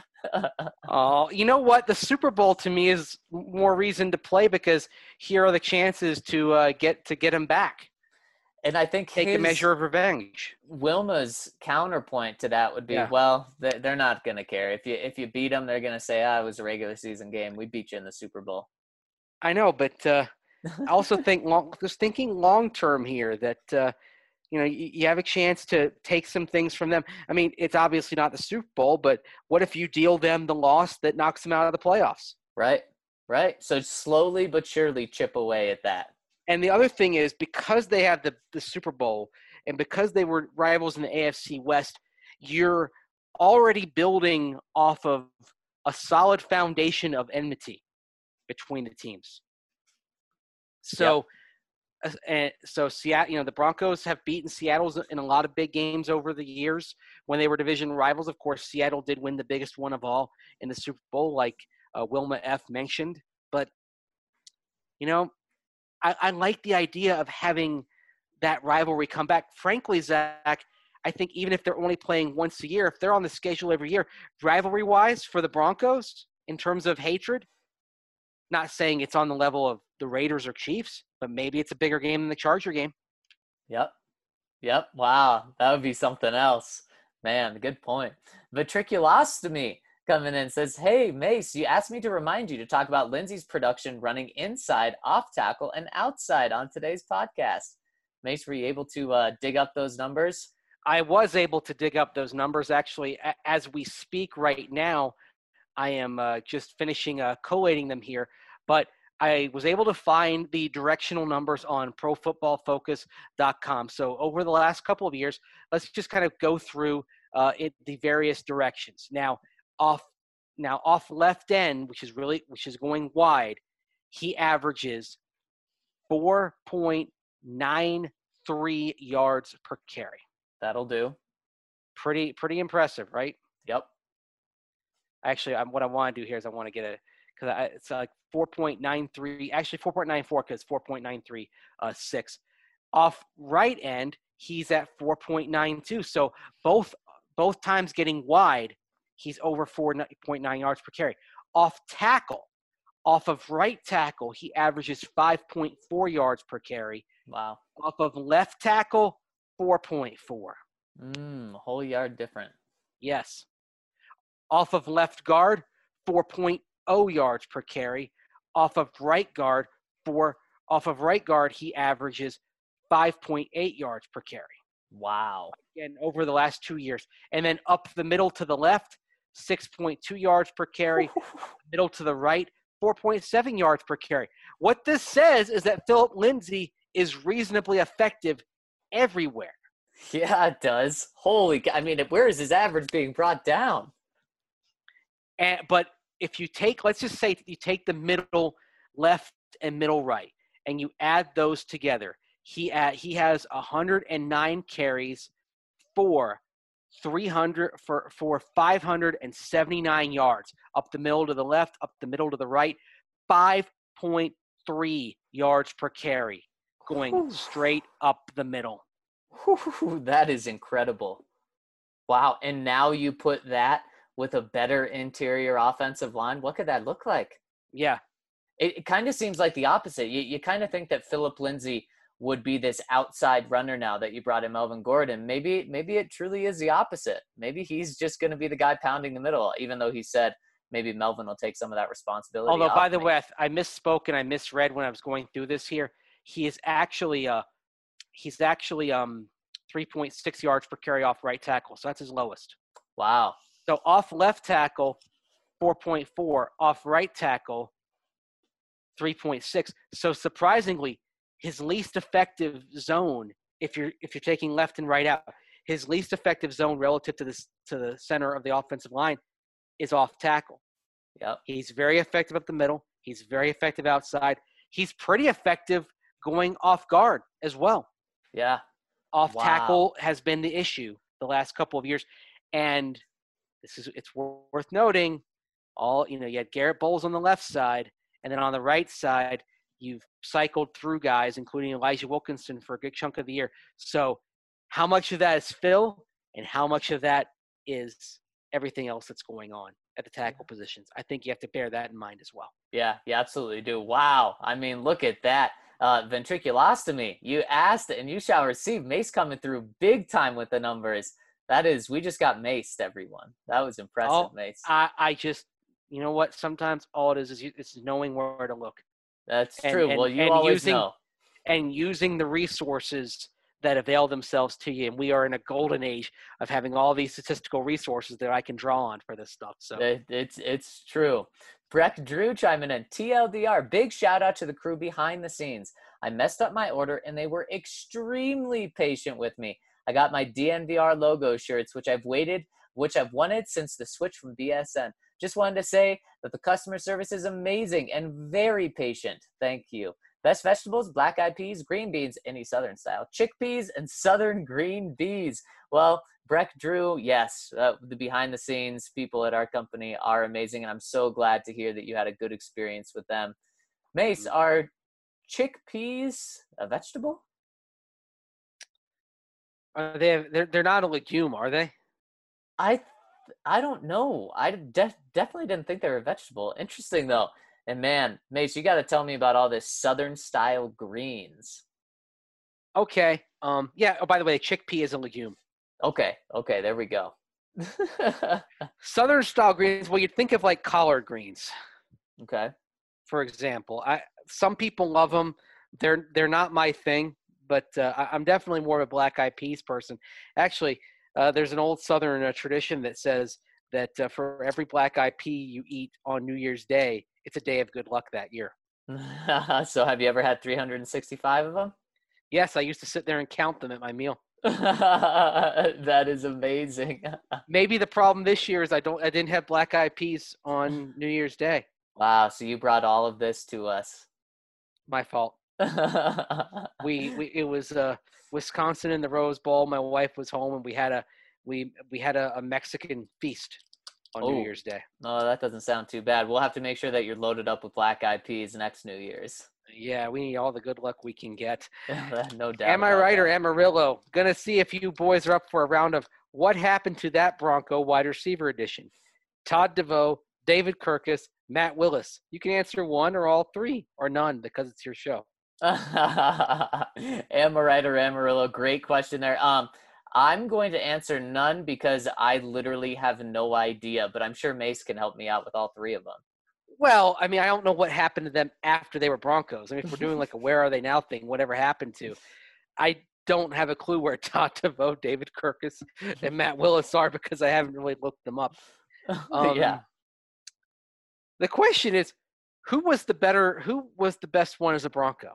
Oh, you know what? The Super Bowl to me is more reason to play because here are the chances to uh, get to get him back. And I think Take his, a measure of revenge. Wilma's counterpoint to that would be, Yeah. well, they- they're not going to care. If you if you beat them, they're going to say, ah, it was a regular season game. We beat you in the Super Bowl. I know, but uh, I also think long, just thinking long term here that uh, you know you, you have a chance to take some things from them. I mean, it's obviously not the Super Bowl, but what if you deal them the loss that knocks them out of the playoffs? Right, right. So slowly but surely chip away at that. And the other thing is because they have the, the Super Bowl and because they were rivals in the A F C West, you're already building off of a solid foundation of enmity between the teams. So, yep. uh, and so Seattle, you know, the Broncos have beaten Seattle in a lot of big games over the years when they were division rivals. Of course, Seattle did win the biggest one of all in the Super Bowl, like uh, Wilma F. mentioned. But, you know, I, I like the idea of having that rivalry come back. Frankly, Zach, I think even if they're only playing once a year, if they're on the schedule every year, rivalry-wise for the Broncos in terms of hatred, not saying it's on the level of the Raiders or Chiefs, but maybe it's a bigger game than the Charger game. Yep. Yep. Wow. That would be something else. Man, good point. Ventriculostomy coming in says, hey, Mace, you asked me to remind you to talk about Lindsey's production running inside, off tackle, and outside on today's podcast. Mace, were you able to uh, dig up those numbers? I was able to dig up those numbers. Actually, as we speak right now, I am uh, just finishing uh, collating them here. But I was able to find the directional numbers on pro football focus dot com. So over the last couple of years, let's just kind of go through uh, it, the various directions. Now, off now off left end, which is really which is going wide, he averages four point nine three yards per carry. That'll do. Pretty pretty impressive, right? Yep. Actually, I'm, what I want to do here is I want to get a because it's like four point nine three, actually four point nine four because four point nine three uh, six. Off right end, he's at four point nine two. So both both times getting wide, he's over four point nine yards per carry. Off tackle, off of right tackle, he averages five point four yards per carry. Wow. Off of left tackle, four point four. Mm, a whole yard different. Yes. Off of left guard, four point oh yards per carry. Off of right guard, four. Off of right guard, he averages five point eight yards per carry. Wow. Again, over the last two years. And then up the middle to the left, six point two yards per carry. Middle to the right, four point seven yards per carry. What this says is that Philip Lindsay is reasonably effective everywhere. Yeah, it does. Holy, I mean, where is his average being brought down? And, but if you take, let's just say you take the middle left and middle right, and you add those together, he uh, he has one hundred nine carries for three hundred for for five hundred seventy-nine yards up the middle to the left, up the middle to the right, five point three yards per carry going Whew. straight up the middle. Whew, that is incredible. Wow. And now you put that with a better interior offensive line. What could that look like? Yeah. It, it kind of seems like the opposite. You, you kind of think that Philip Lindsay would be this outside runner now that you brought in Melvin Gordon. Maybe maybe it truly is the opposite. Maybe he's just going to be the guy pounding the middle, even though he said maybe Melvin will take some of that responsibility. Although, by the me. way, I, I misspoke and I misread when I was going through this here. He is actually uh, he's actually um three point six yards per carry off right tackle, so that's his lowest. Wow. So off left tackle, four point four. Off right tackle, three point six. So surprisingly, his least effective zone, if you're if you're taking left and right out, his least effective zone relative to the to the center of the offensive line is off tackle. Yep. He's very effective up the middle. He's very effective outside. He's pretty effective going off guard as well. Yeah. Off Wow. tackle has been the issue the last couple of years, and this is it's worth noting. All you know, you had Garrett Bowles on the left side, and then on the right side, you've cycled through guys, including Elijah Wilkinson, for a good chunk of the year. So, how much of that is Phil, and how much of that is everything else that's going on at the tackle positions? I think you have to bear that in mind as well. Yeah, you absolutely do. Wow. I mean, look at that. Uh, ventriculostomy. You asked and you shall receive. Mace coming through big time with the numbers. That is, we just got maced, everyone. That was impressive, Oh, Mace. I, I just, you know what? Sometimes all it is is you, it's knowing where to look. That's and, true. and, well, you and always using, know. And using the resources that avail themselves to you. And we are in a golden age of having all these statistical resources that I can draw on for this stuff. So it, it's it's true. Breck Drew chiming in. T L D R. Big shout out to the crew behind the scenes. I messed up my order and they were extremely patient with me. I got my D N V R logo shirts, which I've waited, which I've wanted since the switch from B S N. Just wanted to say that the customer service is amazing and very patient. Thank you. Best vegetables, black-eyed peas, green beans, any Southern style, chickpeas, and Southern green beans. Well, Breck Drew, yes, uh, the behind-the-scenes people at our company are amazing, and I'm so glad to hear that you had a good experience with them. Mace, are chickpeas a vegetable? are they? They're they're not a legume, are they? I I don't know. I def- definitely didn't think they were a vegetable. Interesting, though. And man, Mace, you got to tell me about all this Southern style greens. Okay. Um. Yeah. Oh, by the way, chickpea is a legume. Okay. Okay. There we go. Southern style greens. Well, you'd think of like collard greens, Okay. for example. I some people love them. They're they're not my thing, but uh, I, I'm definitely more of a black-eyed peas person. Actually, uh, there's an old Southern uh, tradition that says that uh, for every black-eyed pea you eat on New Year's Day, it's a day of good luck that year. So have you ever had three hundred sixty-five of them? Yes, I used to sit there and count them at my meal. That is amazing. Maybe the problem this year is I don't I didn't have black-eyed peas on New Year's Day. Wow. So you brought all of this to us. My fault. We we it was uh, Wisconsin in the Rose Bowl. My wife was home and we had a we we had a, a Mexican feast on Oh. New Year's Day. No, that doesn't sound too bad. We'll have to make sure that you're loaded up with black-eyed peas next New Year's. Yeah, we need all the good luck we can get. No doubt. Am I about right that. or Amarillo? Gonna see if you boys are up for a round of what happened to that Bronco wide receiver edition. Todd DeVoe, David Kirkus, Matt Willis. You can answer one or all three or none because it's your show. Am I right or Amarillo? Great question there. Um, I'm going to answer none because I literally have no idea, but I'm sure Mace can help me out with all three of them. Well, I mean, I don't know what happened to them after they were Broncos. I mean, if we're doing like a where are they now thing, whatever happened to. I don't have a clue where Todd DeVoe, David Kirkus, and Matt Willis are because I haven't really looked them up. Um, yeah. The question is, who was the better? Who was the best one as a Bronco?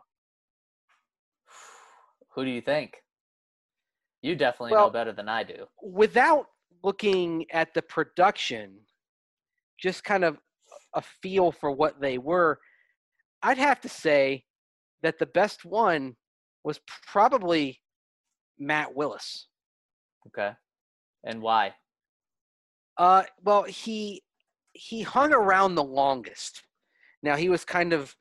Who do you think? You definitely Well, know better than I do. Without looking at the production, just kind of a feel for what they were, I'd have to say that the best one was probably Matt Willis. Okay. And why? Uh, well, he he hung around the longest. Now he was kind of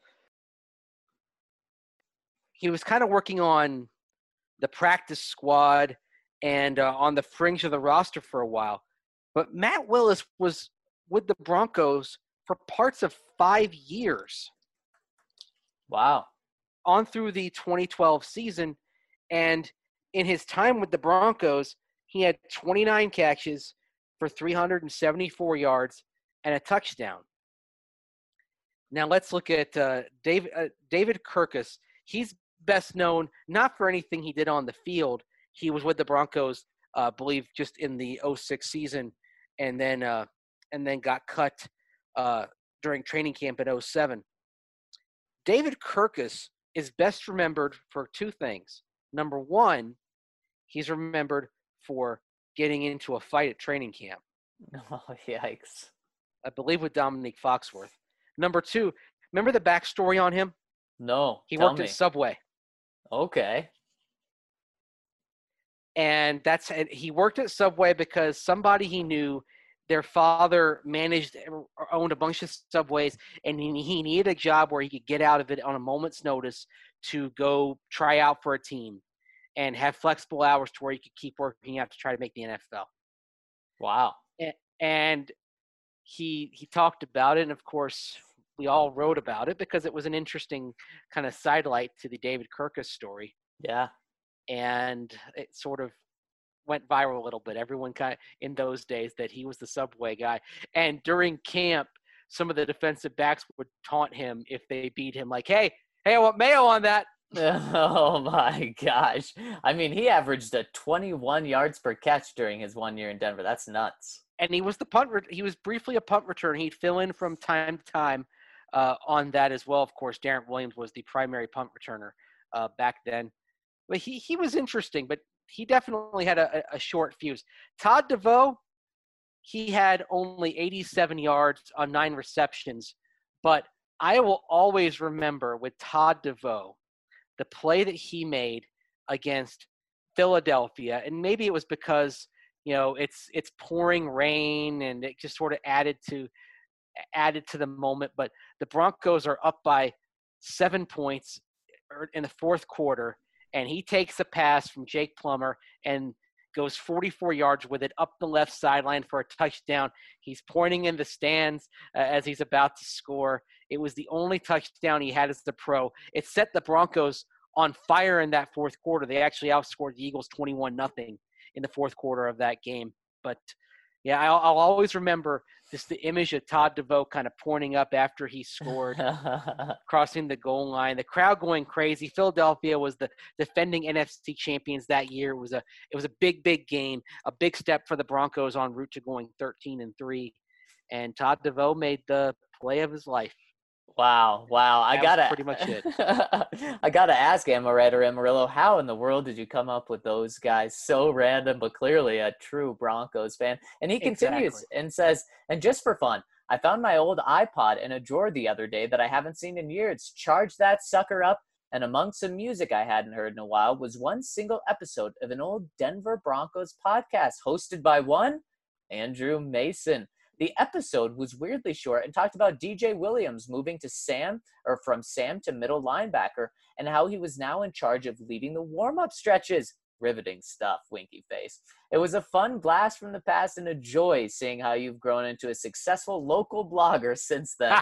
he was kind of working on the practice squad and uh, on the fringe of the roster for a while. But Matt Willis was with the Broncos for parts of five years. Wow. On through the twenty twelve season. And in his time with the Broncos, he had twenty-nine catches for three hundred seventy-four yards and a touchdown. Now let's look at uh, David, uh, David Kirkus. He's best known not for anything he did on the field. He was with the Broncos, I uh, believe, just in the oh six season, and then uh, and then got cut uh, during training camp in oh seven. David Kirkus is best remembered for two things. Number one, he's remembered for getting into a fight at training camp. Oh, yikes. I believe with Dominique Foxworth. Number two, remember the backstory on him? No. He tell worked me. at Subway. Okay. And that's and he worked at Subway because somebody he knew, their father managed or owned a bunch of Subways, and he, he needed a job where he could get out of it on a moment's notice to go try out for a team and have flexible hours to where he could keep working out to try to make the N F L. Wow. And he he talked about it, and of course we all wrote about it because it was an interesting kind of sidelight to the David Kirkus story. Yeah. And it sort of went viral a little bit. Everyone kind of in those days that he was the Subway guy. And during camp, some of the defensive backs would taunt him if they beat him, like, hey, hey, I want mayo on that. Oh my gosh. I mean, he averaged a twenty-one yards per catch during his one year in Denver. That's nuts. And he was the punt. Re- he was briefly a punt return. He'd fill in from time to time uh, on that as well. Of course, Darren Williams was the primary punt returner uh, back then. But he he was interesting, but he definitely had a, a short fuse. Todd DeVoe, he had only eighty-seven yards on nine receptions. But I will always remember with Todd DeVoe, the play that he made against Philadelphia, and maybe it was because, you know, it's it's pouring rain and it just sort of added to added to the moment. But the Broncos are up by seven points in the fourth quarter, and he takes a pass from Jake Plummer and goes forty-four yards with it up the left sideline for a touchdown. He's pointing in the stands uh, as he's about to score. It was the only touchdown he had as the pro. It set the Broncos on fire in that fourth quarter. They actually outscored the Eagles twenty-one nothing in the fourth quarter of that game. But, yeah, I'll, I'll always remember just the image of Todd DeVoe kind of pointing up after he scored, crossing the goal line, the crowd going crazy. Philadelphia was the defending N F C champions that year. It was a it was a big, big game, a big step for the Broncos en route to going thirteen and three. And Todd DeVoe made the play of his life. Wow, wow. I That gotta was pretty much it. I gotta ask Amaretto Amarillo, how in the world did you come up with those guys? So random, but clearly a true Broncos fan. And he continues Exactly. and says, and just for fun, I found my old iPod in a drawer the other day that I haven't seen in years. Charged that sucker up, and among some music I hadn't heard in a while was one single episode of an old Denver Broncos podcast hosted by one Andrew Mason. The episode was weirdly short and talked about D J Williams moving to Sam or from Sam to middle linebacker and how he was now in charge of leading the warm-up stretches. Riveting stuff, winky face. It was a fun blast from the past and a joy seeing how you've grown into a successful local blogger since then.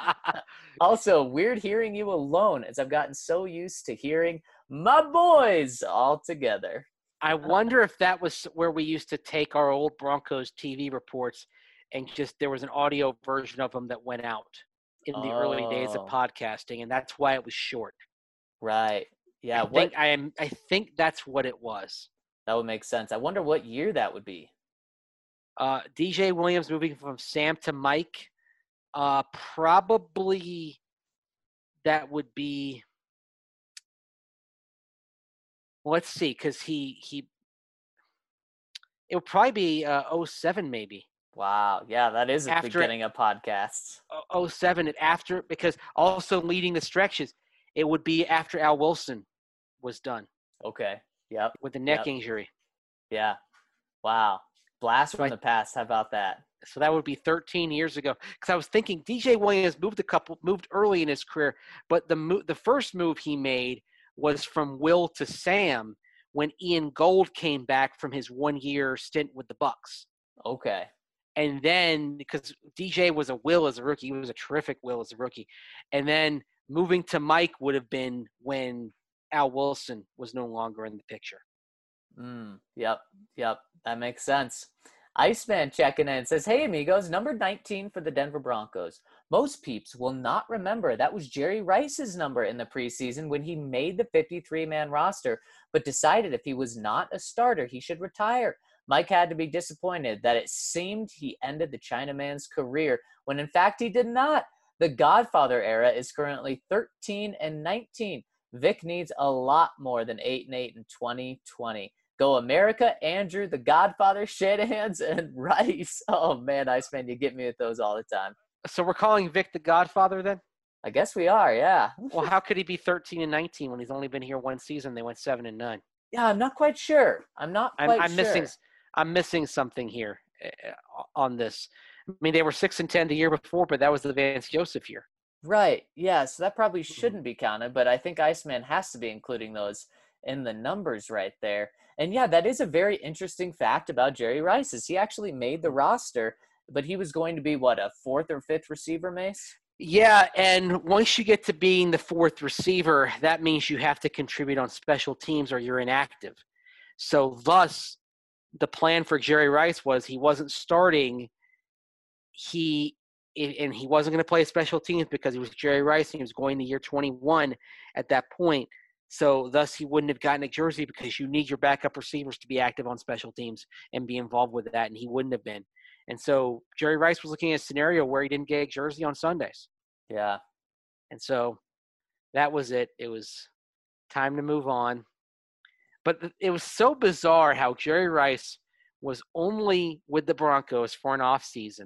Also, weird hearing you alone as I've gotten so used to hearing my boys all together. I wonder if that was where we used to take our old Broncos T V reports and just there was an audio version of them that went out in the early days of Oh. podcasting, and that's why it was short. Right. Yeah, I what think I am. I think that's what it was. that would make sense. I wonder what year that would be. Uh, D J Williams moving from Sam to Mike. Uh, probably that would be. Well, let's see, because he he. It would probably be uh, oh seven maybe. Wow. Yeah, that is the After it- beginning of podcasts. oh seven and after, because also leading the stretches, it would be after Al Wilson was done Okay. Yep. with the neck Yep. injury. Yeah. Wow. Blast from Right. the past. How about that? So that would be thirteen years ago. Because I was thinking D J Williams moved a couple, moved early in his career, but the mo- the first move he made was from Will to Sam when Ian Gold came back from his one year stint with the Bucks. Okay. And then because D J was a Will as a rookie, he was a terrific Will as a rookie. And then moving to Mike would have been when Al Wilson was no longer in the picture. Mm, yep. Yep. That makes sense. Iceman checking in says, "Hey amigos, number nineteen for the Denver Broncos. Most peeps will not remember that was Jerry Rice's number in the preseason when he made the fifty-three man roster, but decided if he was not a starter, he should retire. Mike had to be disappointed that it seemed he ended the Chinaman's career when in fact he did not. The Godfather era is currently thirteen and nineteen. Vic needs a lot more than eight and eight in twenty twenty. Go America, Andrew, the Godfather, Shanahan's, and Rice." Oh, man, Iceman, you get me with those all the time. So we're calling Vic the Godfather then? I guess we are, yeah. Well, how could he be thirteen and nineteen when he's only been here one season? They went seven and nine. Yeah, I'm not quite sure. I'm not I'm, quite I'm sure. missing. I'm missing something here uh, on this. I mean, they were six and ten the year before, but that was the Vance Joseph year. Right, yeah, so that probably Mm-hmm. shouldn't be counted, but I think Iceman has to be including those in the numbers right there. And yeah, that is a very interesting fact about Jerry Rice is he actually made the roster, but he was going to be, what, a fourth or fifth receiver, Mace? Yeah, and once you get to being the fourth receiver, that means you have to contribute on special teams or you're inactive. So thus, the plan for Jerry Rice was he wasn't starting. He and he wasn't going to play special teams because he was Jerry Rice and he was going to year twenty-one at that point. So thus he wouldn't have gotten a jersey because you need your backup receivers to be active on special teams and be involved with that, and he wouldn't have been. And so Jerry Rice was looking at a scenario where he didn't get a jersey on Sundays. Yeah. And so that was it. It was time to move on. But it was so bizarre how Jerry Rice was only with the Broncos for an offseason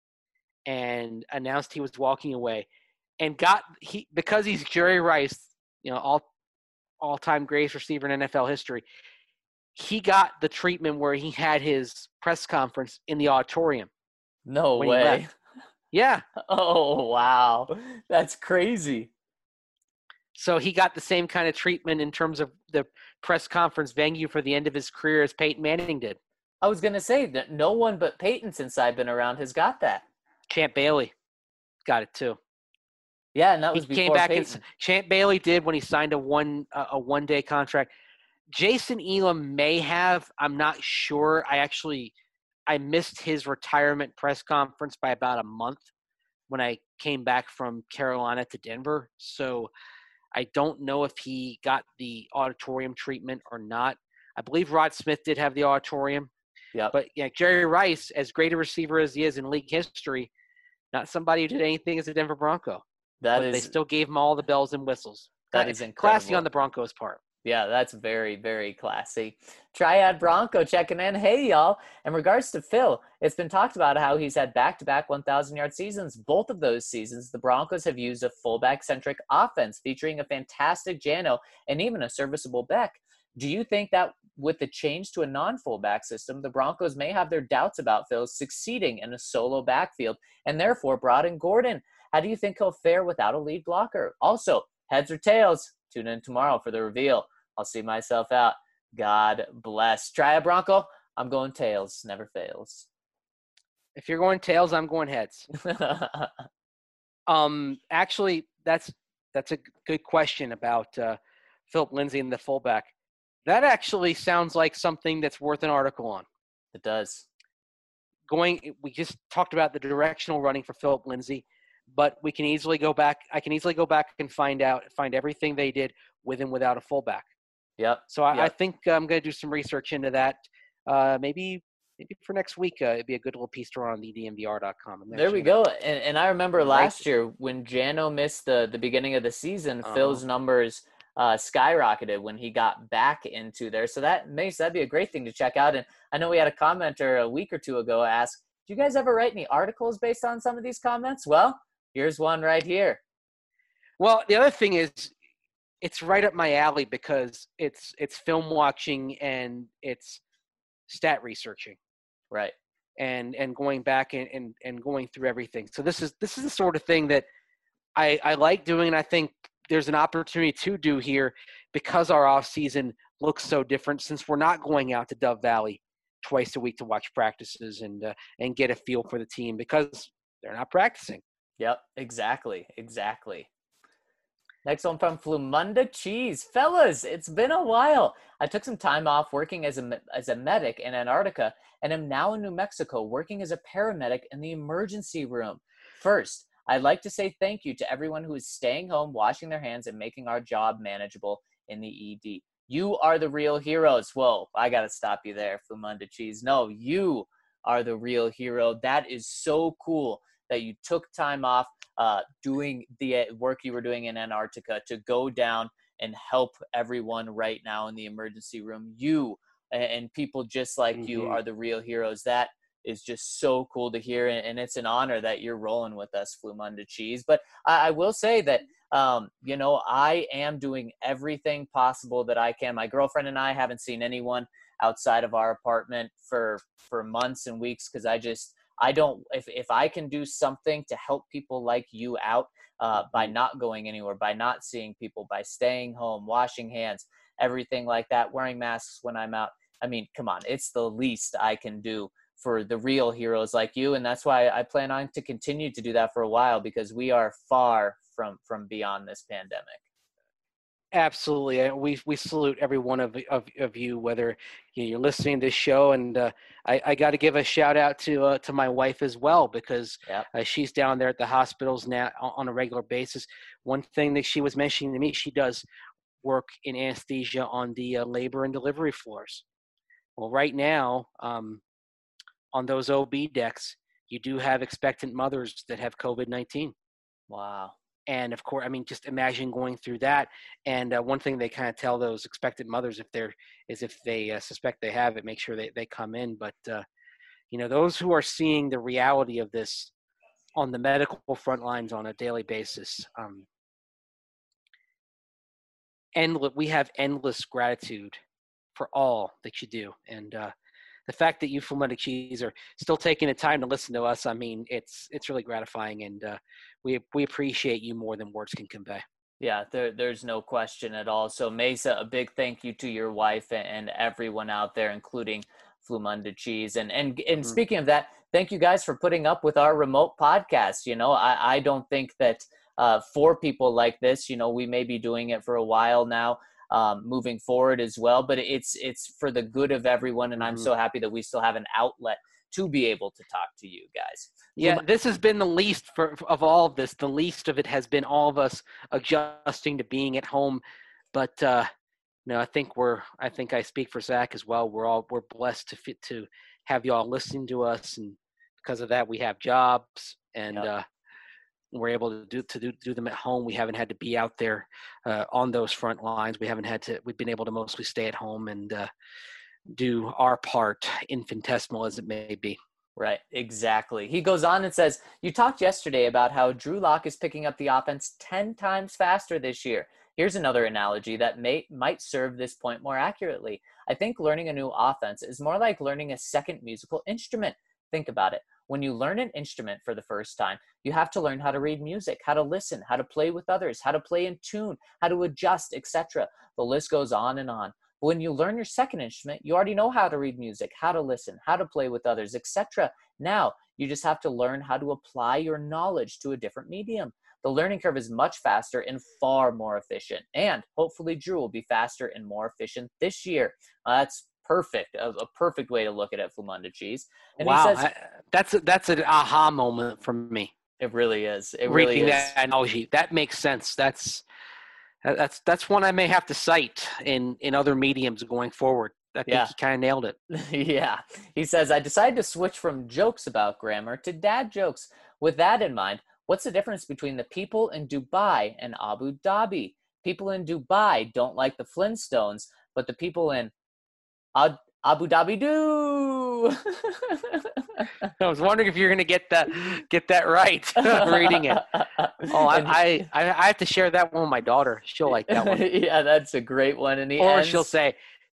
and announced he was walking away and got he because he's Jerry Rice, you know, all all-time greatest receiver in N F L history. He got the treatment where he had his press conference in the auditorium. No when he way. left. Yeah. Oh, wow. That's crazy. So he got the same kind of treatment in terms of the press conference venue for the end of his career as Peyton Manning did. I was going to say that no one but Peyton since I've been around has got that. Champ Bailey got it too. Yeah, and that was He before came back Peyton. and Champ Bailey did when he signed a one uh, a one day contract. Jason Elam may have. I'm not sure. I actually I missed his retirement press conference by about a month when I came back from Carolina to Denver. So I don't know if he got the auditorium treatment or not. I believe Rod Smith did have the auditorium. Yep. But yeah, Jerry Rice, as great a receiver as he is in league history, not somebody who did anything as a Denver Bronco. That but is they still gave him all the bells and whistles. that Cla- is incredible. Classy on the Broncos' part. Yeah, that's very, very classy. Triad Bronco checking in. Hey, y'all. In regards to Phil, it's been talked about how he's had back-to-back one thousand yard seasons. Both of those seasons, the Broncos have used a fullback-centric offense featuring a fantastic Jano and even a serviceable Beck. Do you think that with the change to a non-fullback system, the Broncos may have their doubts about Phil succeeding in a solo backfield and therefore brought in Gordon? How do you think he'll fare without a lead blocker? Also, heads or tails? Tune in tomorrow for the reveal. I'll see myself out. God bless. Triad Bronco, I'm going tails. Never fails. If you're going tails, I'm going heads. Um, actually, that's that's a good question about uh, Philip Lindsay and the fullback. That actually sounds like something that's worth an article on. It does. Going, we just talked about the directional running for Philip Lindsay, but we can easily go back. I can easily go back and find out, find everything they did with and without a fullback. Yep. So I, yep. I think I'm going to do some research into that. Uh, maybe maybe for next week, uh, it'd be a good little piece to run on the D M V R dot com. There we go. And, and I remember right. last year when Jano missed the, the beginning of the season, uh-huh. Phil's numbers uh, skyrocketed when he got back into there. So that makes that'd be a great thing to check out. And I know we had a commenter a week or two ago ask, do you guys ever write any articles based on some of these comments? Well, here's one right here. Well, the other thing is, it's right up my alley because it's it's film watching and it's stat researching, right? And and going back and, and, and going through everything. So this is this is the sort of thing that I, I like doing, and I think there's an opportunity to do here because our off season looks so different since we're not going out to Dove Valley twice a week to watch practices and uh, and get a feel for the team because they're not practicing. Yep, exactly, exactly. Next one from Flumunda Cheese. Fellas, it's been a while. I took some time off working as a, as a medic in Antarctica and am now in New Mexico working as a paramedic in the emergency room. First, I'd like to say thank you to everyone who is staying home, washing their hands, and making our job manageable in the E D. You are the real heroes. Whoa, I got to stop you there, Flumunda Cheese. No, you are the real hero. That is so cool that you took time off Uh, doing the work you were doing in Antarctica to go down and help everyone right now in the emergency room. You and people just like mm-hmm. you are the real heroes. That is just so cool to hear, and it's an honor that you're rolling with us, Flumunda Cheese. But I, I will say that, um, you know, I am doing everything possible that I can. My girlfriend and I haven't seen anyone outside of our apartment for, for months and weeks because I just – I don't, if, if I can do something to help people like you out uh, by not going anywhere, by not seeing people, by staying home, washing hands, everything like that, wearing masks when I'm out. I mean, come on, it's the least I can do for the real heroes like you. And that's why I plan on to continue to do that for a while because we are far from, from beyond this pandemic. Absolutely. We we salute every one of of, of you, whether you're listening to this show. And uh, I, I got to give a shout out to uh, to my wife as well, because yep. uh, she's down there at the hospitals now on a regular basis. One thing that she was mentioning to me, she does work in anesthesia on the uh, labor and delivery floors. Well, right now, um, on those O B decks, you do have expectant mothers that have COVID nineteen. Wow. And of course, I mean, just imagine going through that. And uh, one thing they kind of tell those expectant mothers if they're is if they uh, suspect they have it, make sure they, they come in. But, uh, you know, those who are seeing the reality of this on the medical front lines on a daily basis, um, endless, we have endless gratitude for all that you do. And uh, the fact that you, Flumunda Cheese, are still taking the time to listen to us, I mean, it's it's really gratifying, and uh, we we appreciate you more than words can convey. Yeah, there, there's no question at all. So, Mesa, a big thank you to your wife and everyone out there, including Flumunda Cheese. And and and mm-hmm. speaking of that, thank you guys for putting up with our remote podcast. You know, I, I don't think that uh, for people like this, you know, we may be doing it for a while now. Um, moving forward as well, but it's it's for the good of everyone, and I'm mm-hmm. so happy that we still have an outlet to be able to talk to you guys. Yeah, this has been the least for, of all of this. The least of it has been all of us adjusting to being at home, but uh, you know, I think we're I think I speak for Zach as well. We're all we're blessed to fit to have y'all listening to us, and because of that, we have jobs and. Yep. Uh, We're able to do to do, do them at home. We haven't had to be out there uh, on those front lines. We haven't had to. We've been able to mostly stay at home and uh, do our part, infinitesimal as it may be. Right, exactly. He goes on and says, "You talked yesterday about how Drew Lock is picking up the offense ten times faster this year. Here's another analogy that may might serve this point more accurately. I think learning a new offense is more like learning a second musical instrument. Think about it. When you learn an instrument for the first time, you have to learn how to read music, how to listen, how to play with others, how to play in tune, how to adjust, et cetera. The list goes on and on. But when you learn your second instrument, you already know how to read music, how to listen, how to play with others, et cetera. Now, you just have to learn how to apply your knowledge to a different medium. The learning curve is much faster and far more efficient. And hopefully Drew will be faster and more efficient this year." Uh, that's perfect, a, a perfect way to look at it, Flumunda Cheese. And wow, he says, I, that's a, that's an aha moment for me. It really is. It Reading really is. that analogy, that makes sense. That's That- That's that's one I may have to cite in, in other mediums going forward. I think Yeah. he kind of nailed it. Yeah. He says, I decided to switch from jokes about grammar to dad jokes. With that in mind, what's the difference between the people in Dubai and Abu Dhabi? People in Dubai don't like the Flintstones, but the people in Ad- Abu Dhabi do. I was wondering if you're going to get that get that right reading it. Oh, I, And- I I I have to share that one with my daughter. She'll like that one, yeah, that's a great one. And he or ends, she'll say,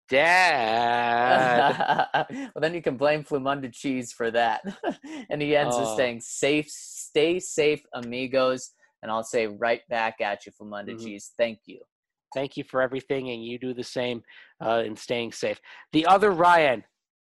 "Dad." well, then you can blame Flumunda Cheese for that. And he ends with Oh. saying, safe, stay safe, amigos. And I'll say right back at you, Flumunda Mhm. Cheese. Thank you. Thank you for everything, and you do the same uh, in staying safe. The other Ryan,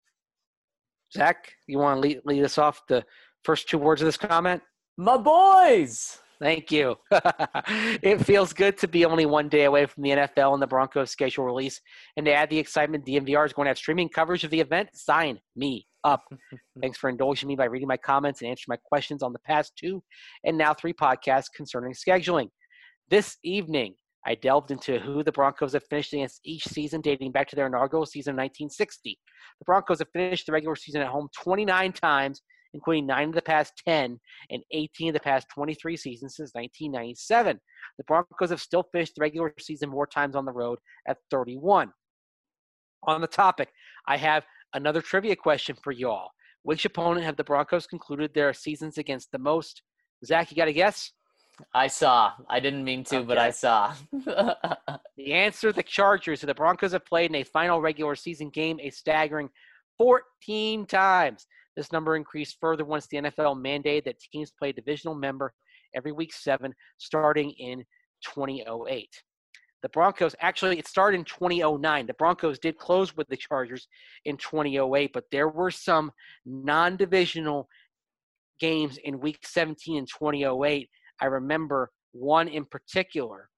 Zach, you want to lead, lead us off the first two words of this comment? My boys! Thank you. It feels good to be only one day away from the N F L and the Broncos schedule release. And to add the excitement, D M V R is going to have streaming coverage of the event. Sign me up. Thanks for indulging me by reading my comments and answering my questions on the past two and now three podcasts concerning scheduling. This evening, I delved into who the Broncos have finished against each season dating back to their inaugural season in nineteen sixty. The Broncos have finished the regular season at home twenty-nine times, including nine of the past ten and eighteen of the past twenty-three seasons since nineteen ninety-seven. The Broncos have still finished the regular season more times on the road at thirty-one. On the topic, I have another trivia question for y'all. Which opponent have the Broncos concluded their seasons against the most? Zach, you got a guess? I saw. I didn't mean to, but I Okay. saw. The answer, the Chargers, who the Broncos have played in a final regular season game a staggering fourteen times. This number increased further once the N F L mandated that teams play a divisional member every week seven, starting in twenty oh eight. The Broncos, actually, it started in twenty oh nine. The Broncos did close with the Chargers in twenty oh eight, but there were some non-divisional games in week seventeen and twenty oh eight. I remember one in particular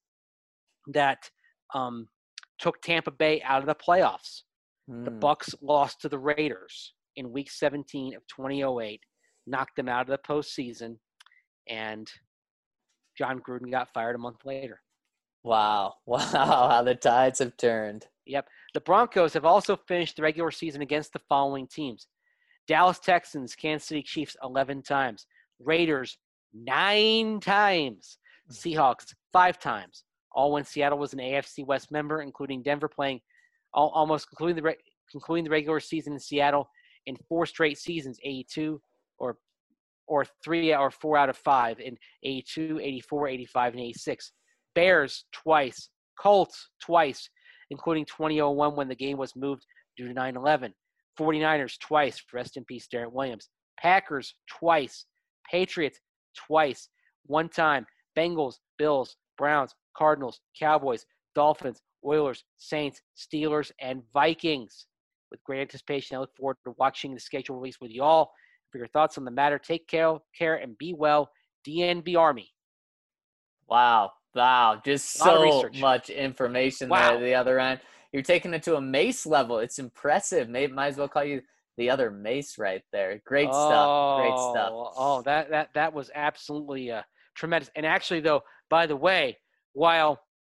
that um, took Tampa Bay out of the playoffs. The Hmm. Bucs lost to the Raiders in week seventeen of twenty oh eight, knocked them out of the postseason, and John Gruden got fired a month later. Wow. Wow. How the tides have turned. Yep. The Broncos have also finished the regular season against the following teams: Dallas Texans, Kansas City Chiefs eleven times, Raiders nine times, Seahawks five times, all when Seattle was an A F C West member, including Denver playing all, almost concluding the re- concluding the regular season in Seattle in four straight seasons, eighty-two or or three or four out of five in eighty-two, eighty-four, eighty-five, and eighty-six. Bears twice, Colts twice, including twenty oh one when the game was moved due to nine eleven. forty-niners twice, rest in peace, Darren Williams. Packers twice, Patriots twice, one time. Bengals, Bills, Browns, Cardinals, Cowboys, Dolphins, Oilers, Saints, Steelers, and Vikings. With great anticipation, I look forward to watching the schedule release with you all. For your thoughts on the matter, take care, care and be well. D N B Army. Wow. Wow. Just A lot of so research. much information Wow. there at the other end. You're taking it to a Mace level. It's impressive. May, might as well call you the other Mace right there. Great stuff. Great stuff. Oh, oh, that that that was absolutely uh, tremendous. And actually, though, by the way, while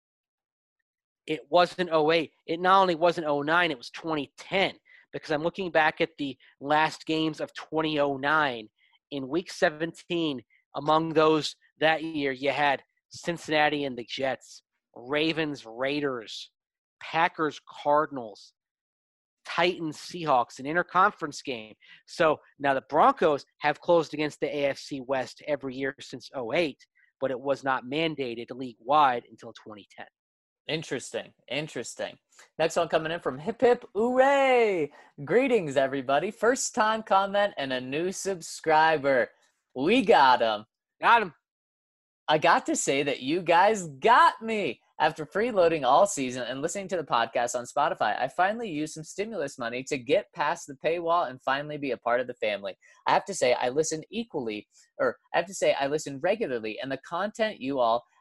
it wasn't oh eight, it not only wasn't oh nine, it was twenty ten. Because I'm looking back at the last games of twenty oh nine. In week seventeen, among those that year, you had Cincinnati and the Jets, Ravens, Raiders, Packers, Cardinals, Titans, Seahawks, an interconference game. So now the Broncos have closed against the A F C West every year since oh eight, but it was not mandated league-wide until twenty ten. Interesting. Interesting. Next one coming in from Hip Hip Hooray. Greetings, everybody. First time comment and a new subscriber. We got him. Got him. I got to say that you guys got me. After freeloading all season and listening to the podcast on Spotify, I finally used some stimulus money to get past the paywall and finally be a part of the family. I have to say I listen equally, or I have to say I listen regularly, and the content you all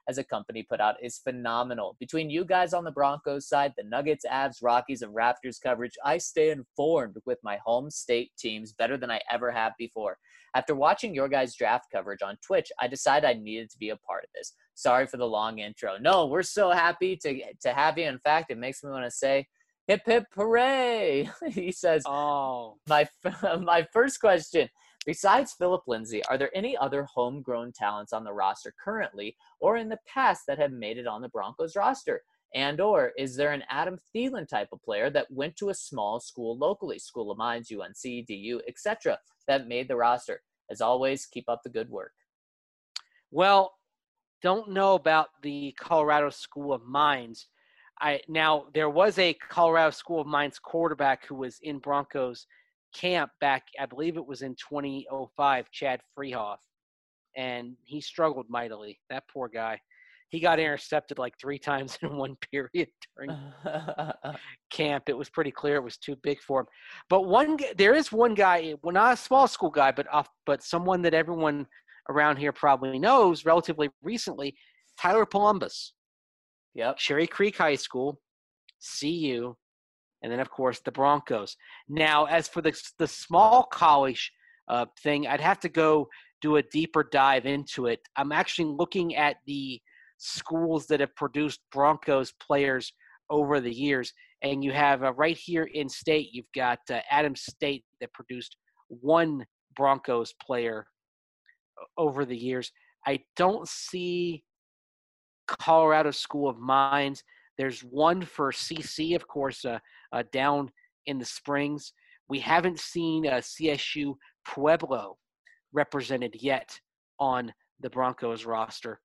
as a company put out is phenomenal. Between you guys on the Broncos side, the Nuggets, Avs, Rockies, and Raptors coverage, I stay informed with my home state teams better than I ever have before. After watching your guys' draft coverage on Twitch, I decided I needed to be a part of this. Sorry for the long intro. No, we're so happy to, to have you. In fact, it makes me want to say, hip, hip, hooray. He says, Oh, my, my first question, besides Philip Lindsay, are there any other homegrown talents on the roster currently or in the past that have made it on the Broncos roster? And or is there an Adam Thielen type of player that went to a small school locally, School of Mines, U N C, D U, et cetera, that made the roster? As always, keep up the good work. well, don't know about the Colorado School of Mines. I now there was a Colorado School of Mines quarterback who was in Broncos camp back, I believe it was in twenty oh five, Chad Freehoff, and he struggled mightily. That poor guy. He got intercepted like three times in one period during camp. It was pretty clear it was too big for him. But one, there is one guy, well, not a small school guy, but off, but someone that everyone around here probably knows relatively recently, Tyler Columbus. Yep. Cherry Creek High School, C U, and then, of course, the Broncos. Now, as for the, the small college uh, thing, I'd have to go do a deeper dive into it. I'm actually looking at the schools that have produced Broncos players over the years, and you have uh, right here in state, you've got uh, Adams State that produced one Broncos player over the years. I don't see Colorado School of Mines. There's one for C C, of course, uh, uh, down in the Springs. We haven't seen uh, C S U Pueblo represented yet on the Broncos roster.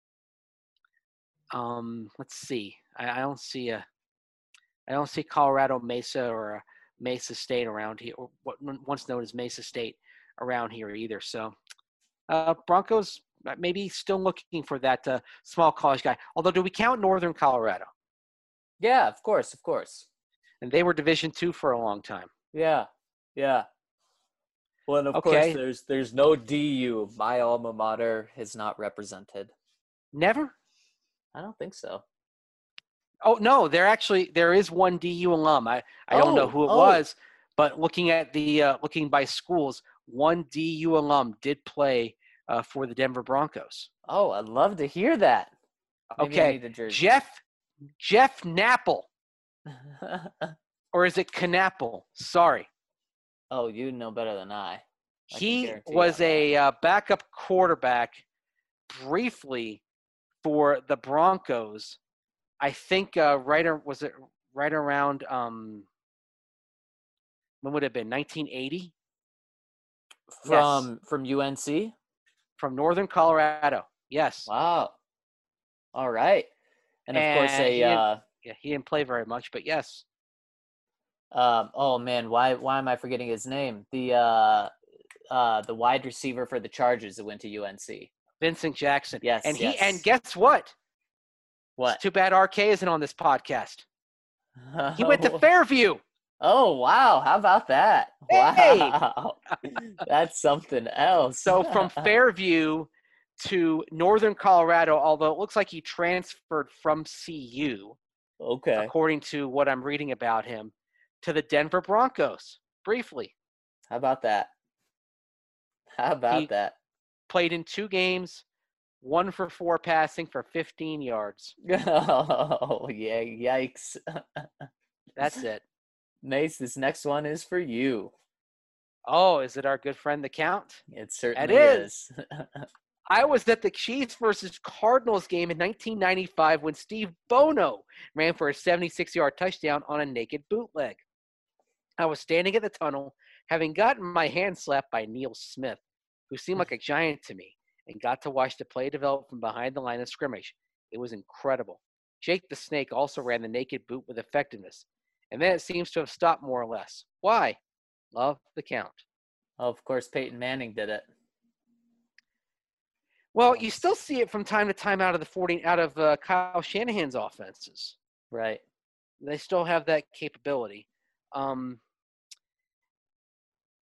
Um, let's see. I, I don't see a. I don't see Colorado Mesa or a Mesa State around here, or what once known as Mesa State around here either. So, uh, Broncos maybe still looking for that uh, small college guy. Although, do we count Northern Colorado? Yeah, of course, of course. And they were Division two for a long time. Yeah, yeah. Well, and of Okay. course, there's there's no D U. My alma mater is not represented. Never? I don't think so. Oh, no, there actually there is one D U alum. I, I don't know Oh, who it oh. was, but looking at the uh, looking by schools, one D U alum did play uh, for the Denver Broncos. Oh, I'd love to hear that. Maybe I Okay, need a jersey. Jeff Jeff Knapple, or is it Knapple? Sorry. Oh, you know better than I. I can He guarantee you was on that. a uh, backup quarterback briefly for the Broncos. I think uh, right ar- was it right around um, when would it have been nineteen eighty from from U N C. from Northern Colorado. Yes. Wow. All right. And of course, And a he didn't- uh, Yeah, he didn't play very much, but yes. um, oh man, why why am I forgetting his name? The uh, uh, the wide receiver for the Chargers that went to U N C. Vincent Jackson. Yes, And he yes. and guess what? What? It's too bad R K isn't on this podcast. He went to Oh. Fairview. Oh wow! How about that? Hey! Wow, that's something else. So from Fairview to Northern Colorado, although it looks like he transferred from C U, okay, according to what I'm reading about him, to the Denver Broncos, briefly. how about that? How about He- that? Played in two games, one for four passing for fifteen yards. Oh yeah! Yikes! That's it. Mace, this next one is for you. Oh, is it our good friend the Count? It certainly is. is. I was at the Chiefs versus Cardinals game in nineteen ninety-five when Steve Bono ran for a seventy-six-yard touchdown on a naked bootleg. I was standing at the tunnel, having gotten my hand slapped by Neil Smith, who seemed like a giant to me, and got to watch the play develop from behind the line of scrimmage. It was incredible. Jake the Snake also ran the naked boot with effectiveness, and then it seems to have stopped more or less. Why? Love the Count. Oh, of course, Peyton Manning did it. Well, you still see it from time to time out of the forty out of uh, Kyle Shanahan's offenses. Right. They still have that capability. Um,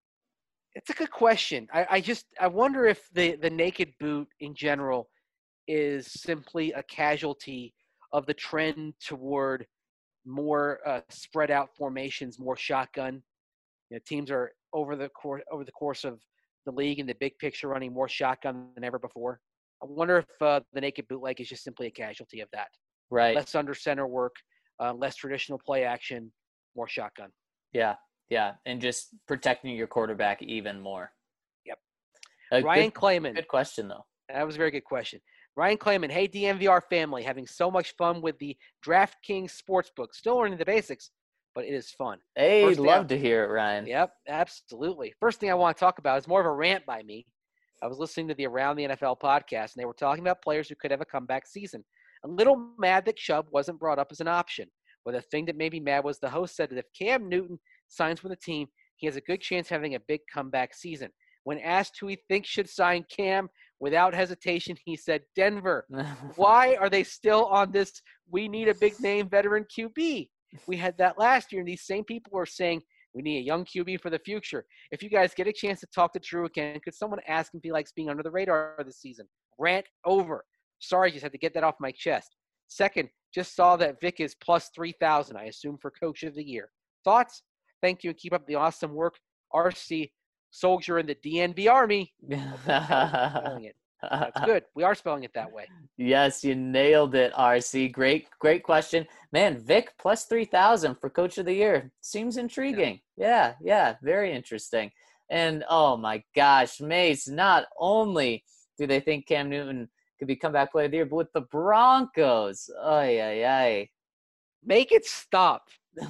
it's a good question. I, I just I wonder if the, the naked boot in general is simply a casualty of the trend toward more uh, spread out formations, more shotgun. You know, teams are over the course over the course of the league in the big picture running more shotgun than ever before. I wonder if uh, the naked bootleg is just simply a casualty of that. Right. Less under center work, uh, less traditional play action, more shotgun. Yeah. Yeah. And just protecting your quarterback even more. Yep. Uh, Ryan good, Clayman. Good question, though. That was a very good question. Ryan Clayman, hey, D M V R family, having so much fun with the DraftKings Sportsbook. Still learning the basics, but it is fun. Hey, First thing love I- to hear it, Ryan. Yep, absolutely. First thing I want to talk about is more of a rant by me. I was listening to the Around the N F L podcast, and they were talking about players who could have a comeback season. A little mad that Chubb wasn't brought up as an option. But the thing that made me mad was the host said that if Cam Newton signs with a team, he has a good chance of having a big comeback season. When asked who he thinks should sign Cam, without hesitation, he said Denver. Why are they still on this we need a big name veteran Q B? We had that last year, and these same people were saying we need a young Q B for the future. If you guys get a chance to talk to Drew again, could someone ask if he likes being under the radar this season? Rant over. Sorry, just had to get that off my chest. Second, just saw that Vic is plus three thousand, I assume, for Coach of the Year. Thoughts? Thank you, and keep up the awesome work. R C, soldier in the D N V Army. Spelling it. That's good. We are spelling it that way. Yes, you nailed it, R C. Great, great question. Man, Vic plus three thousand for Coach of the Year. Seems intriguing. Yeah, yeah, very interesting. And, oh, my gosh, Mace, not only do they think Cam Newton could be comeback player of the year, but with the Broncos. Ay, ay, ay. Make it stop.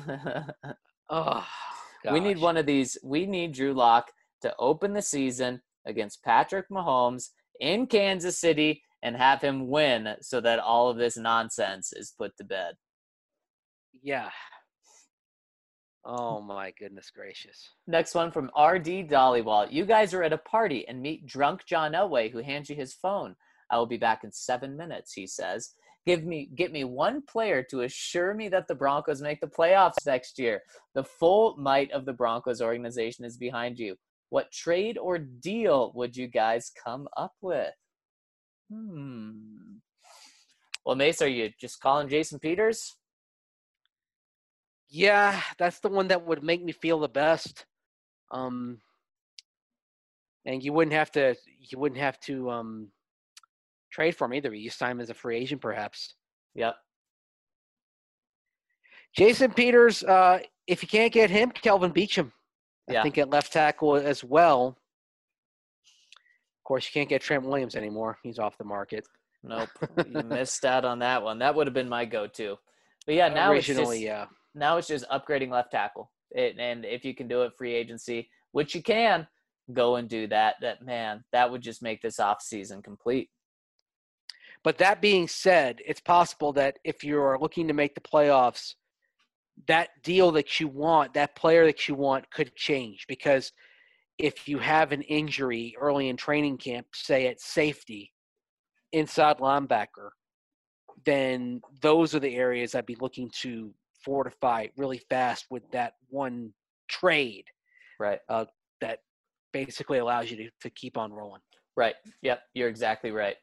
Oh, We need gosh. one of these. We need Drew Lock to open the season against Patrick Mahomes in Kansas City and have him win so that all of this nonsense is put to bed. Yeah. Oh, my goodness gracious. Next one from R D Dollywall. You guys are at a party and meet drunk John Elway, who hands you his phone. I will be back in seven minutes, he says. Give me, get me one player to assure me that the Broncos make the playoffs next year. The full might of the Broncos organization is behind you. What trade or deal would you guys come up with? Hmm. Well, Mace, are you just calling Jason Peters? Yeah, that's the one that would make me feel the best. Um, and you wouldn't have to. You wouldn't have to um, trade for him either. You sign him as a free agent, perhaps. Yep. Jason Peters. Uh, if you can't get him, Kelvin Beachum. I Yeah. think at left tackle as well. Of course, you can't get Trent Williams anymore. He's off the market. Nope. You missed out on that one. That would have been my go-to. But yeah, now Originally, it's just, yeah. now it's just upgrading left tackle. It, and if you can do it free agency, which you can, go and do that. That man, that would just make this offseason complete. But that being said, it's possible that if you're looking to make the playoffs, that deal that you want, that player that you want could change. Because if you have an injury early in training camp, say at safety, inside linebacker, then those are the areas I'd be looking to fortify really fast with that one trade Right. uh, that basically allows you to, to keep on rolling. Right. Yep. You're exactly right.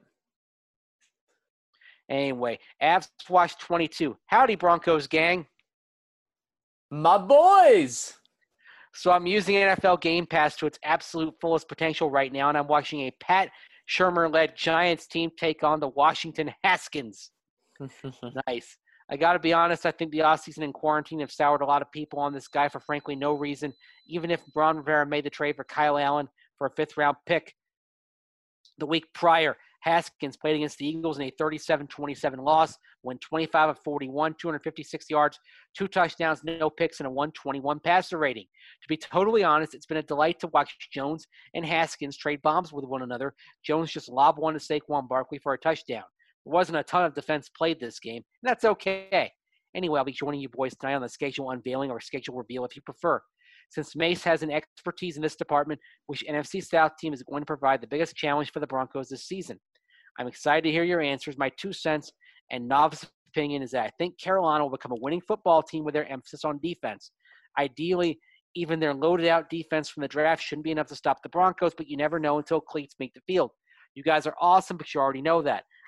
Anyway, Avs Watch twenty-two. Howdy, Broncos gang. My boys. So I'm using N F L Game Pass to its absolute fullest potential right now, and I'm watching a Pat Shurmur-led Giants team take on the Washington Haskins. Nice. I got to be honest, I think the offseason and quarantine have soured a lot of people on this guy for frankly no reason. Even if Ron Rivera made the trade for Kyle Allen for a fifth-round pick the week prior, Haskins played against the Eagles in a thirty-seven twenty-seven loss, went twenty-five of forty-one, two hundred fifty-six yards, two touchdowns, no picks, and a one twenty-one passer rating. To be totally honest, it's been a delight to watch Jones and Haskins trade bombs with one another. Jones just lobbed one to Saquon Barkley for a touchdown. There wasn't a ton of defense played this game, and that's okay. Anyway, I'll be joining you boys tonight on the schedule unveiling or schedule reveal if you prefer. Since Mace has an expertise in this department, which N F C South team is going to provide the biggest challenge for the Broncos this season? I'm excited to hear your answers. My two cents and novice opinion is that I think Carolina will become a winning football team with their emphasis on defense. Ideally, even their loaded-out defense from the draft shouldn't be enough to stop the Broncos, but you never know until cleats make the field. You guys are awesome, but you already know that.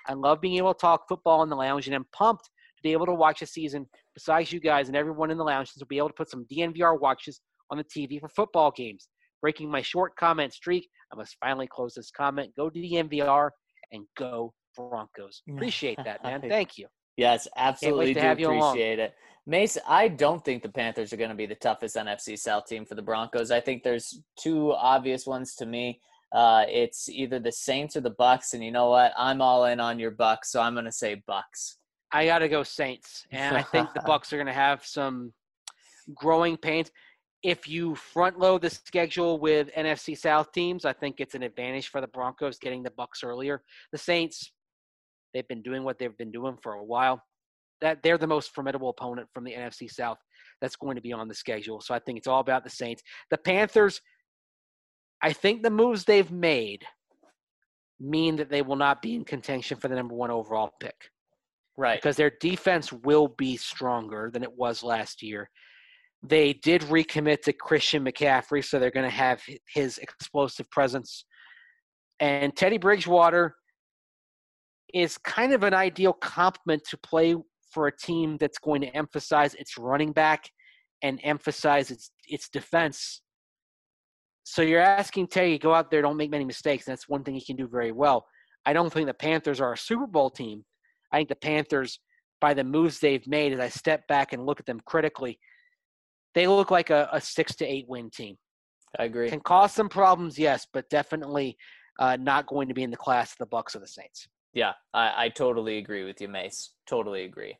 I love being able to talk football in the lounge, and I'm pumped to be able to watch a season besides you guys and everyone in the lounge to be able to put some D N V R watches on the T V for football games. Breaking my short comment streak, I must finally close this comment. Go to D N V R and go Broncos. Appreciate that, man. Thank you. Yes, absolutely to do have you along. appreciate it. Mace, I don't think the Panthers are going to be the toughest N F C South team for the Broncos. I think there's two obvious ones to me. Uh, it's either the Saints or the Bucks, and you know what? I'm all in on your Bucks, so I'm going to say Bucks. I got to go Saints, and I think the Bucks are going to have some growing pains. If you front load the schedule with N F C South teams, I think it's an advantage for the Broncos getting the Bucks earlier. The Saints, they've been doing what they've been doing for a while. That they're the most formidable opponent from the N F C South that's going to be on the schedule. So I think it's all about the Saints. The Panthers, I think the moves they've made mean that they will not be in contention for the number one overall pick. Right. Because their defense will be stronger than it was last year. They did recommit to Christian McCaffrey, so they're going to have his explosive presence. And Teddy Bridgewater is kind of an ideal complement to play for a team that's going to emphasize its running back and emphasize its its defense. So you're asking Teddy to go out there, don't make many mistakes. That's one thing he can do very well. I don't think the Panthers are a Super Bowl team. I think the Panthers, by the moves they've made, as I step back and look at them critically, they look like a, a six to eight win team. I agree. Can cause some problems, yes, but definitely uh, not going to be in the class of the Bucks or the Saints. Yeah, I, I totally agree with you, Mace. Totally agree.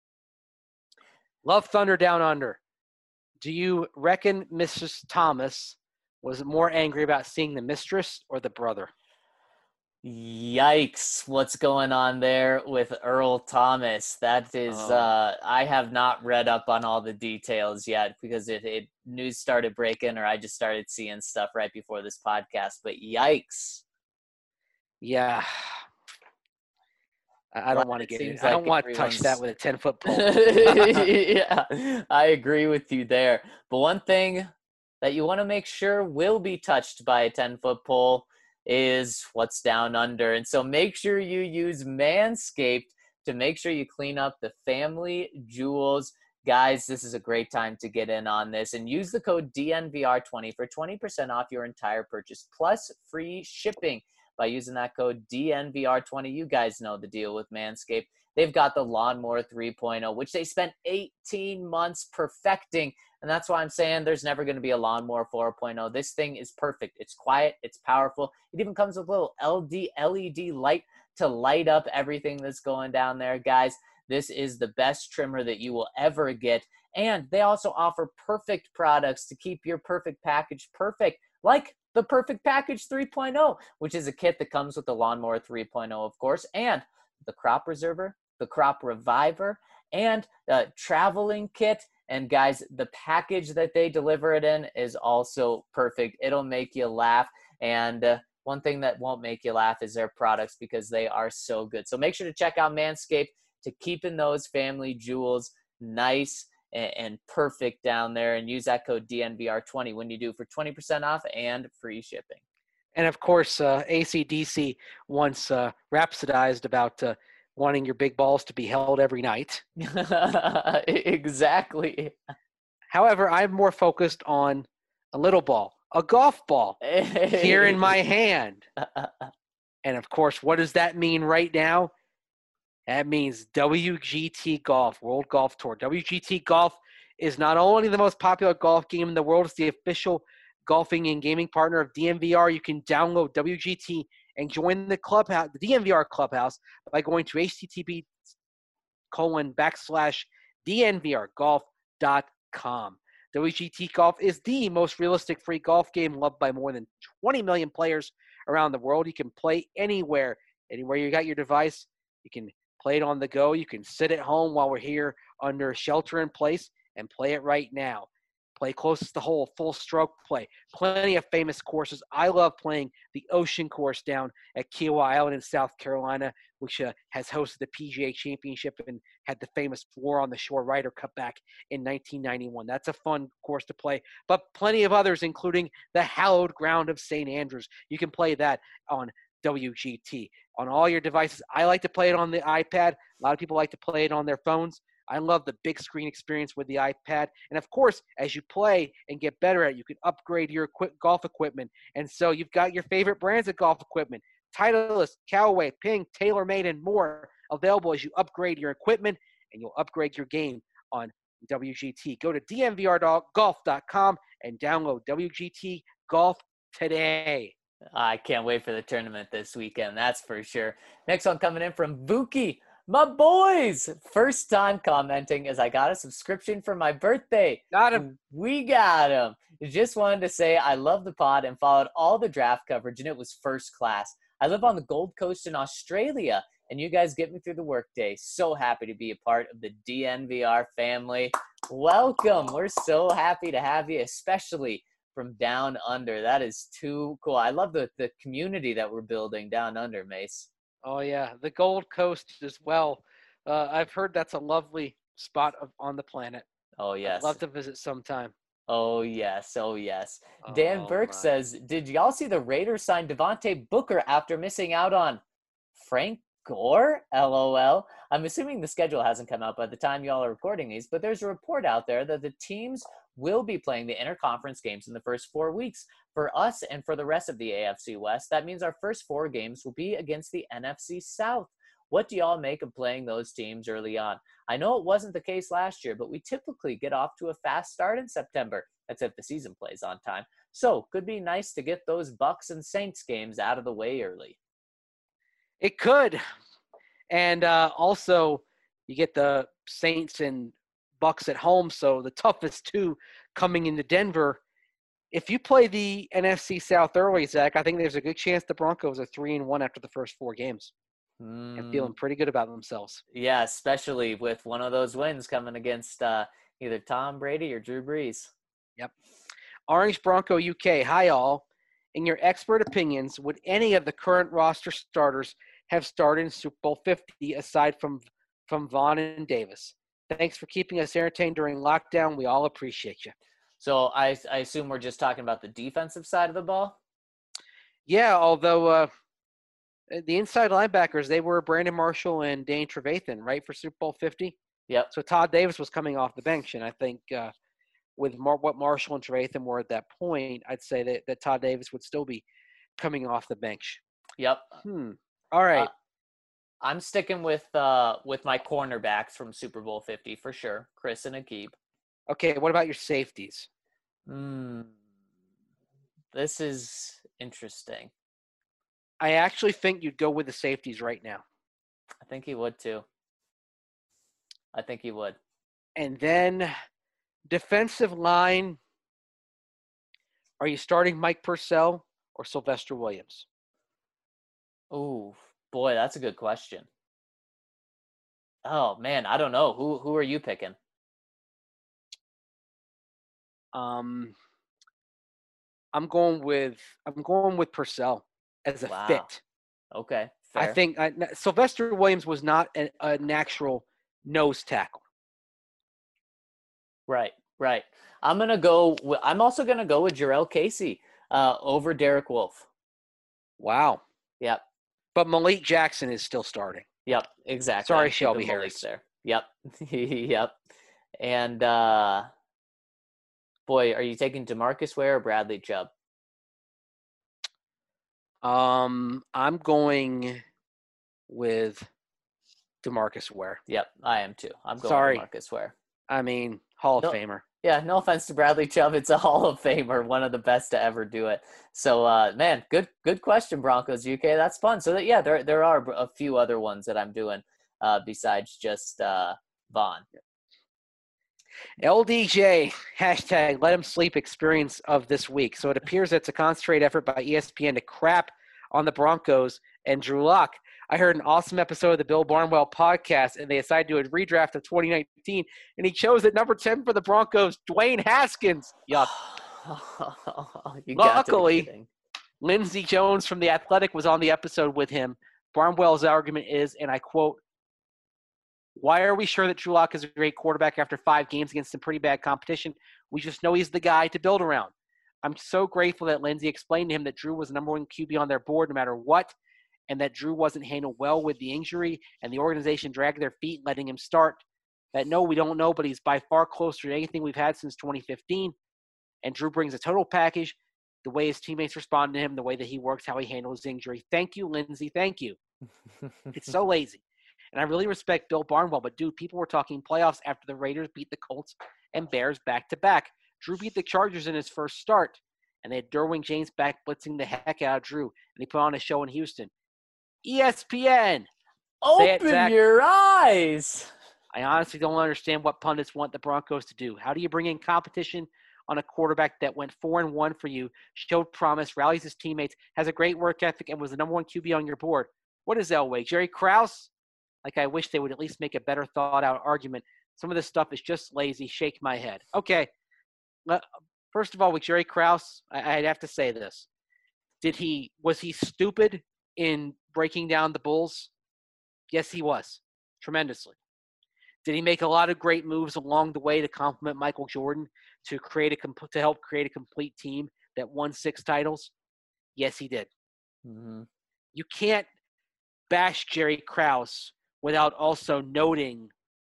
Love Thunder Down Under. Do you reckon Missus Thomas was more angry about seeing the mistress or the brother? Yikes. What's going on there with Earl Thomas? That is, Oh. uh, I have not read up on all the details yet because it, it news started breaking or I just started seeing stuff right before this podcast, but yikes. Yeah. I, I don't Well, want to it get seems it. I don't like want to touch that everyone's- with a ten-foot pole. Yeah, I agree with you there. But one thing that you want to make sure will be touched by a ten-foot pole is what's down under. And so make sure you use Manscaped to make sure you clean up the family jewels. Guys, this is a great time to get in on this and use the code D N V R twenty for twenty percent off your entire purchase plus free shipping by using that code D N V R twenty. You guys know the deal with Manscaped. They've got the Lawnmower three point oh, which they spent eighteen months perfecting. And that's why I'm saying there's never going to be a Lawnmower four point oh. This thing is perfect. It's quiet. It's powerful. It even comes with a little L E D light to light up everything that's going down there. Guys, this is the best trimmer that you will ever get. And they also offer perfect products to keep your perfect package perfect, like the Perfect Package three point oh, which is a kit that comes with the Lawnmower three point oh, of course, and the Crop Preserver, the Crop Reviver, and the Traveling Kit. And guys, the package that they deliver it in is also perfect. It'll make you laugh. And uh, one thing that won't make you laugh is their products because they are so good. So make sure to check out Manscaped to keeping those family jewels nice and, and perfect down there. And use that code D N V R twenty when you do for twenty percent off and free shipping. And, of course, uh, A C D C once uh, rhapsodized about uh, wanting your big balls to be held every night. Exactly. However, I'm more focused on a little ball, a golf ball here in my hand. And, of course, what does that mean right now? That means W G T Golf, World Golf Tour. W G T Golf is not only the most popular golf game in the world, it's the official golfing and gaming partner of D N V R. You can download W G T and join the clubhouse, the D N V R clubhouse, by going to http colon backslash dnvrgolf dot com. W G T Golf is the most realistic free golf game loved by more than twenty million players around the world. You can play anywhere, anywhere you got your device. You can play it on the go. You can sit at home while we're here under shelter in place and play it right now. Play closest to hole, full stroke play. Plenty of famous courses. I love playing the Ocean Course down at Kiowa Island in South Carolina, which uh, has hosted the P G A Championship and had the famous War on the Shore Ryder Cup back in nineteen ninety-one. That's a fun course to play. But plenty of others, including the hallowed ground of Saint Andrews. You can play that on W G T on all your devices. I like to play it on the iPad. A lot of people like to play it on their phones. I love the big screen experience with the iPad. And of course, as you play and get better at it, you can upgrade your equi- golf equipment. And so you've got your favorite brands of golf equipment: Titleist, Callaway, Ping, TaylorMade, and more available as you upgrade your equipment, and you'll upgrade your game on W G T. Go to D M V R golf dot com and download W G T Golf today. I can't wait for the tournament this weekend, that's for sure. Next one coming in from Vuki. My boys, first time commenting as I got a subscription for my birthday. Got him. We got him. Just wanted to say I love the pod and followed all the draft coverage, and it was first class. I live on the Gold Coast in Australia, and you guys get me through the workday. So happy to be a part of the D N V R family. Welcome. We're so happy to have you, especially from down under. That is too cool. I love the, the community that we're building down under, Mace. Oh, yeah. The Gold Coast as well. Uh, I've heard that's a lovely spot of, on the planet. Oh, yes. I'd love to visit sometime. Oh, yes. Oh, yes. Dan Oh, Burke my. says, did y'all see the Raiders sign Devontae Booker after missing out on Frank Gore? LOL. I'm assuming the schedule hasn't come out by the time y'all are recording these, but there's a report out there that the teams will be playing the interconference games in the first four weeks. For us and for the rest of the A F C West, that means our first four games will be against the N F C South. What do y'all make of playing those teams early on? I know it wasn't the case last year, but we typically get off to a fast start in September. That's if the season plays on time. So could be nice to get those Bucks and Saints games out of the way early. It could. And uh, also, you get the Saints and Bucks at home, so the toughest two coming into Denver. If you play the N F C South early, Zach, I think there's a good chance the Broncos are three and one after the first four games Mm, and feeling pretty good about themselves. yeah, especially with one of those wins coming against uh, either Tom Brady or Drew Brees. Yep. Orange Bronco U K, hi all. In your expert opinions, would any of the current roster starters have started in Super Bowl fifty aside from from Vaughn and Davis? Thanks for keeping us entertained during lockdown. We all appreciate you. So I, I assume we're just talking about the defensive side of the ball? Yeah, although uh, the inside linebackers, they were Brandon Marshall and Dane Trevathan, right, for Super Bowl fifty? Yep. So Todd Davis was coming off the bench, and I think uh, with Mar- what Marshall and Trevathan were at that point, I'd say that, that Todd Davis would still be coming off the bench. Yep. Hmm. All right. Uh, I'm sticking with uh, with my cornerbacks from Super Bowl fifty for sure, Chris and Aqib. Okay, what about your safeties? Mm, this is interesting. I actually think you'd go with the safeties right now. I think he would too. I think he would. And then defensive line, are you starting Mike Purcell or Sylvester Williams? Ooh, boy, that's a good question. Oh man, I don't know. Who who are you picking? Um, I'm going with I'm going with Purcell as a Wow. fit. Okay, I fair. think I, Sylvester Williams was not a, a natural nose tackle. Right, right. I'm gonna go. With, I'm also gonna go with Jarrell Casey uh, over Derek Wolfe. Wow. Yep, But Malik Jackson is still starting. yep, exactly. Sorry, I'm keeping Shelby Malik Harris. there. Yep, yep. And uh, boy, are you taking DeMarcus Ware or Bradley Chubb? Um, I'm going with DeMarcus Ware. Yep, I am too. I'm going Sorry. with DeMarcus Ware. I mean, Hall of No. Famer. Yeah, no offense to Bradley Chubb. It's a Hall of Famer, one of the best to ever do it. So, uh, man, good good question, Broncos U K. That's fun. So, that, yeah, there there are a few other ones that I'm doing uh, besides just uh, Vaughn. L D J, hashtag let him sleep experience of this week. So it appears it's a concentrated effort by E S P N to crap on the Broncos and Drew Lock. I heard an awesome episode of the Bill Barnwell podcast, and they decided to do a redraft of twenty nineteen, and he chose at number ten for the Broncos, Dwayne Haskins. Yuck. You got to be Luckily, kidding. Lindsey Jones from The Athletic was on the episode with him. Barnwell's argument is, and I quote, "Why are we sure that Drew Lock is a great quarterback after five games against some pretty bad competition? We just know he's the guy to build around." I'm so grateful that Lindsey explained to him that Drew was the number one Q B on their board no matter what. and that Drew wasn't handled well with the injury and the organization dragged their feet letting him start. That no, we don't know, but he's by far closer to anything we've had since twenty fifteen. And Drew brings a total package, the way his teammates respond to him, the way that he works, how he handles injury. Thank you, Lindsey. Thank you. It's so lazy. And I really respect Bill Barnwell, but, dude, people were talking playoffs after the Raiders beat the Colts and Bears back-to-back. Drew beat the Chargers in his first start, and they had Derwin James back blitzing the heck out of Drew, and he put on a show in Houston. E S P N. Open it, your eyes. I honestly don't understand what pundits want the Broncos to do. How do you bring in competition on a quarterback that went four and one for you, showed promise, rallies his teammates, has a great work ethic, and was the number one Q B on your board? What is Elway? Jerry Krause? Like, I wish they would at least make a better thought-out argument. Some of this stuff is just lazy. Shake my head. Okay. First of all, with Jerry Krause, I'd have to say this. Did he – was he stupid in breaking down the Bulls? Yes, he was. Tremendously. Did he make a lot of great moves along the way to complement Michael Jordan to create a to help create a complete team that won six titles? Yes, he did. Mm-hmm. You can't bash Jerry Krause without also noting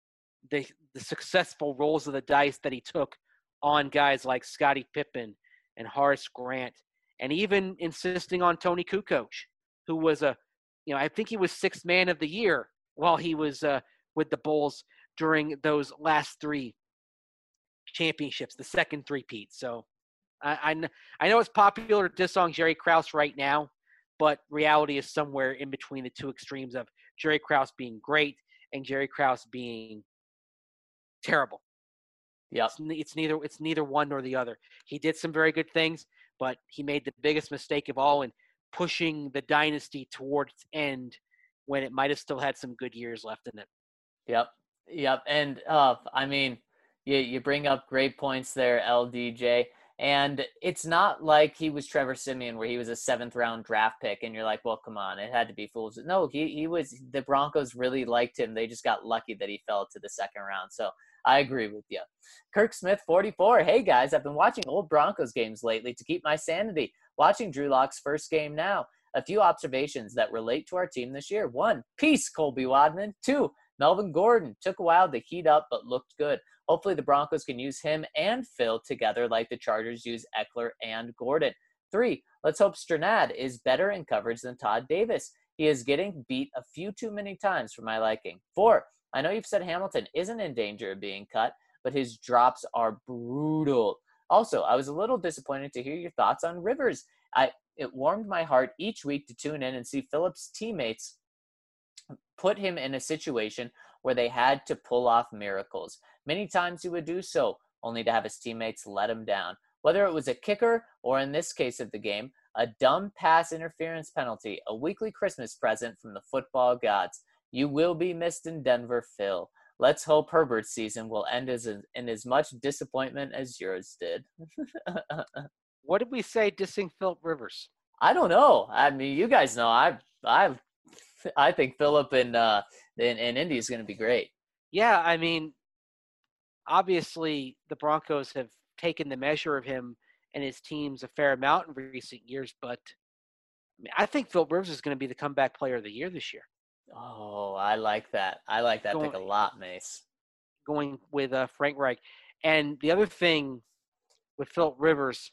the the successful rolls of the dice that he took on guys like Scottie Pippen and Horace Grant, and even insisting on Tony Kukoc, who was a, you know, I think he was sixth man of the year while he was uh, with the Bulls during those last three championships, the second three-peat. So I, I, I know it's popular to diss on Jerry Krause right now, but reality is somewhere in between the two extremes of Jerry Krause being great and Jerry Krause being terrible. Yep. It's, it's neither it's neither one nor the other. He did some very good things, but he made the biggest mistake of all in pushing the dynasty towards its end when it might have still had some good years left in it. Yep. Yep. And uh, I mean, you, you bring up great points there, L D J. And it's not like he was Trevor Siemian where he was a seventh round draft pick and you're like, well, come on, it had to be fools. No, he, he was – the Broncos really liked him. They just got lucky that he fell to the second round. So I agree with you. Kirk Smith, forty-four. Hey, guys, I've been watching old Broncos games lately to keep my sanity. Watching Drew Lock's first game now. A few observations that relate to our team this year. One, peace, Colby Wadman. Two, Melvin Gordon. Took a while to heat up but looked good. Hopefully the Broncos can use him and Phil together like the Chargers use Eckler and Gordon. Three, let's hope Strnad is better in coverage than Todd Davis. He is getting beat a few too many times for my liking. Four, I know you've said Hamilton isn't in danger of being cut, but his drops are brutal. Also, I was a little disappointed to hear your thoughts on Rivers. I It warmed my heart each week to tune in and see Phillips' teammates put him in a situation where they had to pull off miracles. Many times he would do so, only to have his teammates let him down. Whether it was a kicker or, in this case of the game, a dumb pass interference penalty, a weekly Christmas present from the football gods. You will be missed in Denver, Phil. Let's hope Herbert's season will end as a, in as much disappointment as yours did. What did we say dissing Philip Rivers? I don't know. I mean, you guys know. I I I think Philip in uh in, in Indy is going to be great. Yeah, I mean, obviously the Broncos have taken the measure of him and his teams a fair amount in recent years, but I, mean, I think Philip Rivers is going to be the comeback player of the year this year. Oh, I like that. I like that going, pick a lot, Mace. Going with uh, Frank Reich. And the other thing with Philip Rivers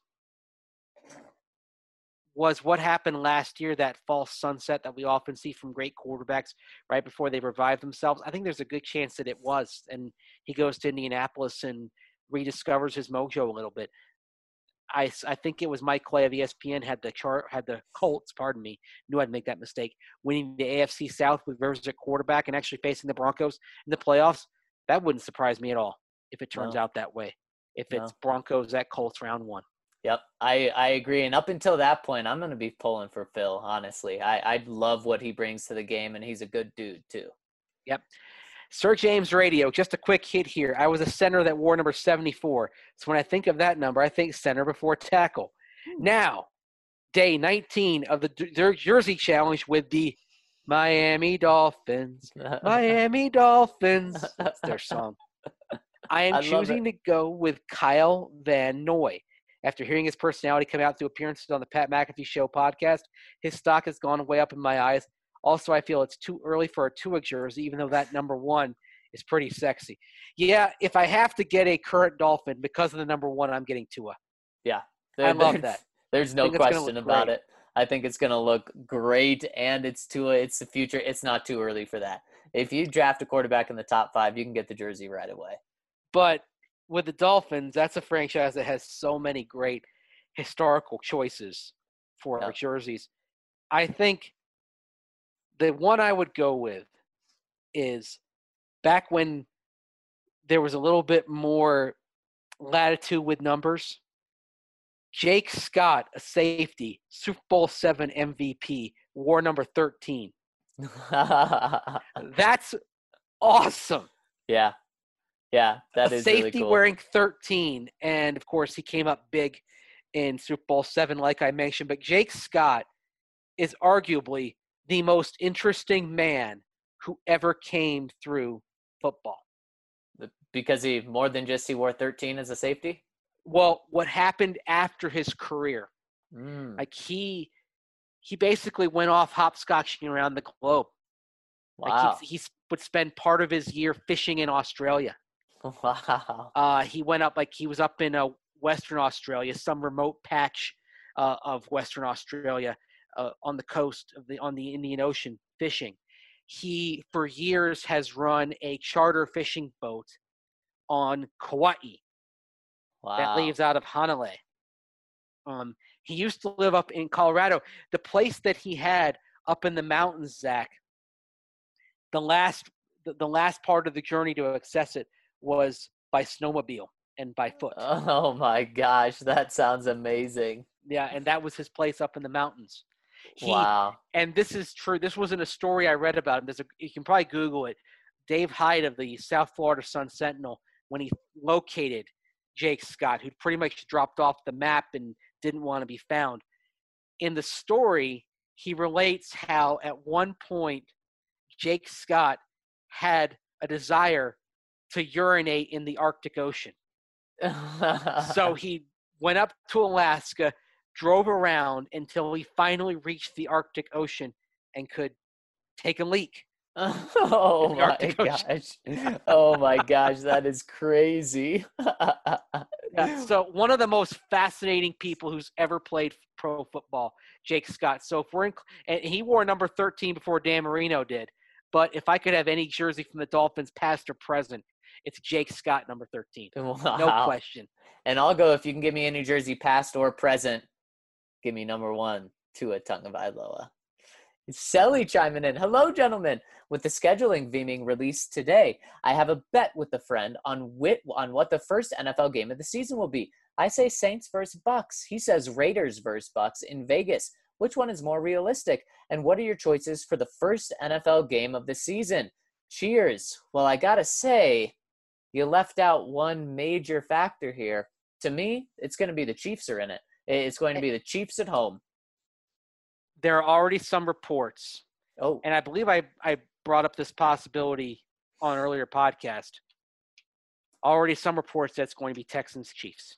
was what happened last year, that false sunset that we often see from great quarterbacks right before they revive themselves. I think there's a good chance that it was. And he goes to Indianapolis and rediscovers his mojo a little bit. I, I think it was Mike Clay of E S P N had the chart, had the Colts, pardon me, knew I'd make that mistake, winning the A F C South with Rivers at quarterback and actually facing the Broncos in the playoffs. That wouldn't surprise me at all if it turns no. out that way, if no. it's Broncos at Colts round one. Yep, I, I agree. And up until that point, I'm going to be pulling for Phil, honestly. I, I love what he brings to the game, and he's a good dude, too. Yep. Sir James Radio, just a quick hit here. I was a center that wore number seventy-four. So when I think of that number, I think center before tackle. Hmm. Now, day nineteen of the Jersey Challenge with the Miami Dolphins. Miami Dolphins. That's their song. I am I choosing to go with Kyle Van Noy. After hearing his personality come out through appearances on the Pat McAfee Show podcast, his stock has gone way up in my eyes. Also, I feel it's too early for a Tua jersey, even though that number one is pretty sexy. Yeah, if I have to get a current Dolphin because of the number one, I'm getting Tua. Yeah. I love that. There's no question about it. I think it's going to look great, and it's Tua. It's the future. It's not too early for that. If you draft a quarterback in the top five, you can get the jersey right away. But with the Dolphins, that's a franchise that has so many great historical choices for Yeah. our jerseys. I think the one I would go with is back when there was a little bit more latitude with numbers. Jake Scott, a safety, Super Bowl seven M V P, wore number thirteen. That's awesome. Yeah. Yeah, that a is safety really cool. wearing thirteen. And, of course, he came up big in Super Bowl seven, like I mentioned. But Jake Scott is arguably the most interesting man who ever came through football. Because he, more than just he wore thirteen as a safety? Well, what happened after his career? Mm. Like, he he basically went off hopscotching around the globe. Wow. Like he, he would spend part of his year fishing in Australia. Wow. Uh, he went up, like he was up in uh, Western Australia, some remote patch uh, of Western Australia uh, on the coast of the on the Indian Ocean fishing. He, for years, has run a charter fishing boat on Kauai Wow. that leaves out of Hanalei. Um, he used to live up in Colorado. The place that he had up in the mountains, Zach, the last the, the last part of the journey to access it was by snowmobile and by foot. Oh my gosh, that sounds amazing. Yeah, and that was his place up in the mountains. He, Wow. And this is true. This wasn't a story I read about him. There's a, you can probably Google it. Dave Hyde of the South Florida Sun-Sentinel, when he located Jake Scott, who'd pretty much dropped off the map and didn't want to be found. In the story, he relates how at one point Jake Scott had a desire to urinate in the Arctic Ocean. So he went up to Alaska, drove around until he finally reached the Arctic Ocean and could take a leak. Oh my gosh. Oh my gosh, that is crazy. Yeah, so one of the most fascinating people who's ever played pro football, Jake Scott. So if we're in, and he wore number thirteen before Dan Marino did. But if I could have any jersey from the Dolphins, past or present, it's Jake Scott, number thirteen. Wow. No question. And I'll go, if you can give me any jersey, past or present, give me number one, Tua Tagovailoa. Selly chiming in. Hello, gentlemen. With the scheduling being released today, I have a bet with a friend on wit on what the first N F L game of the season will be. I say Saints versus Bucks. He says Raiders versus Bucks in Vegas. Which one is more realistic? And what are your choices for the first N F L game of the season? Cheers. Well, I gotta say, you left out one major factor here. To me, it's going to be the Chiefs are in it. It's going to be the Chiefs at home. There are already some reports. Oh, And I believe I, I brought up this possibility on an earlier podcast. Already some reports that it's going to be Texans-Chiefs.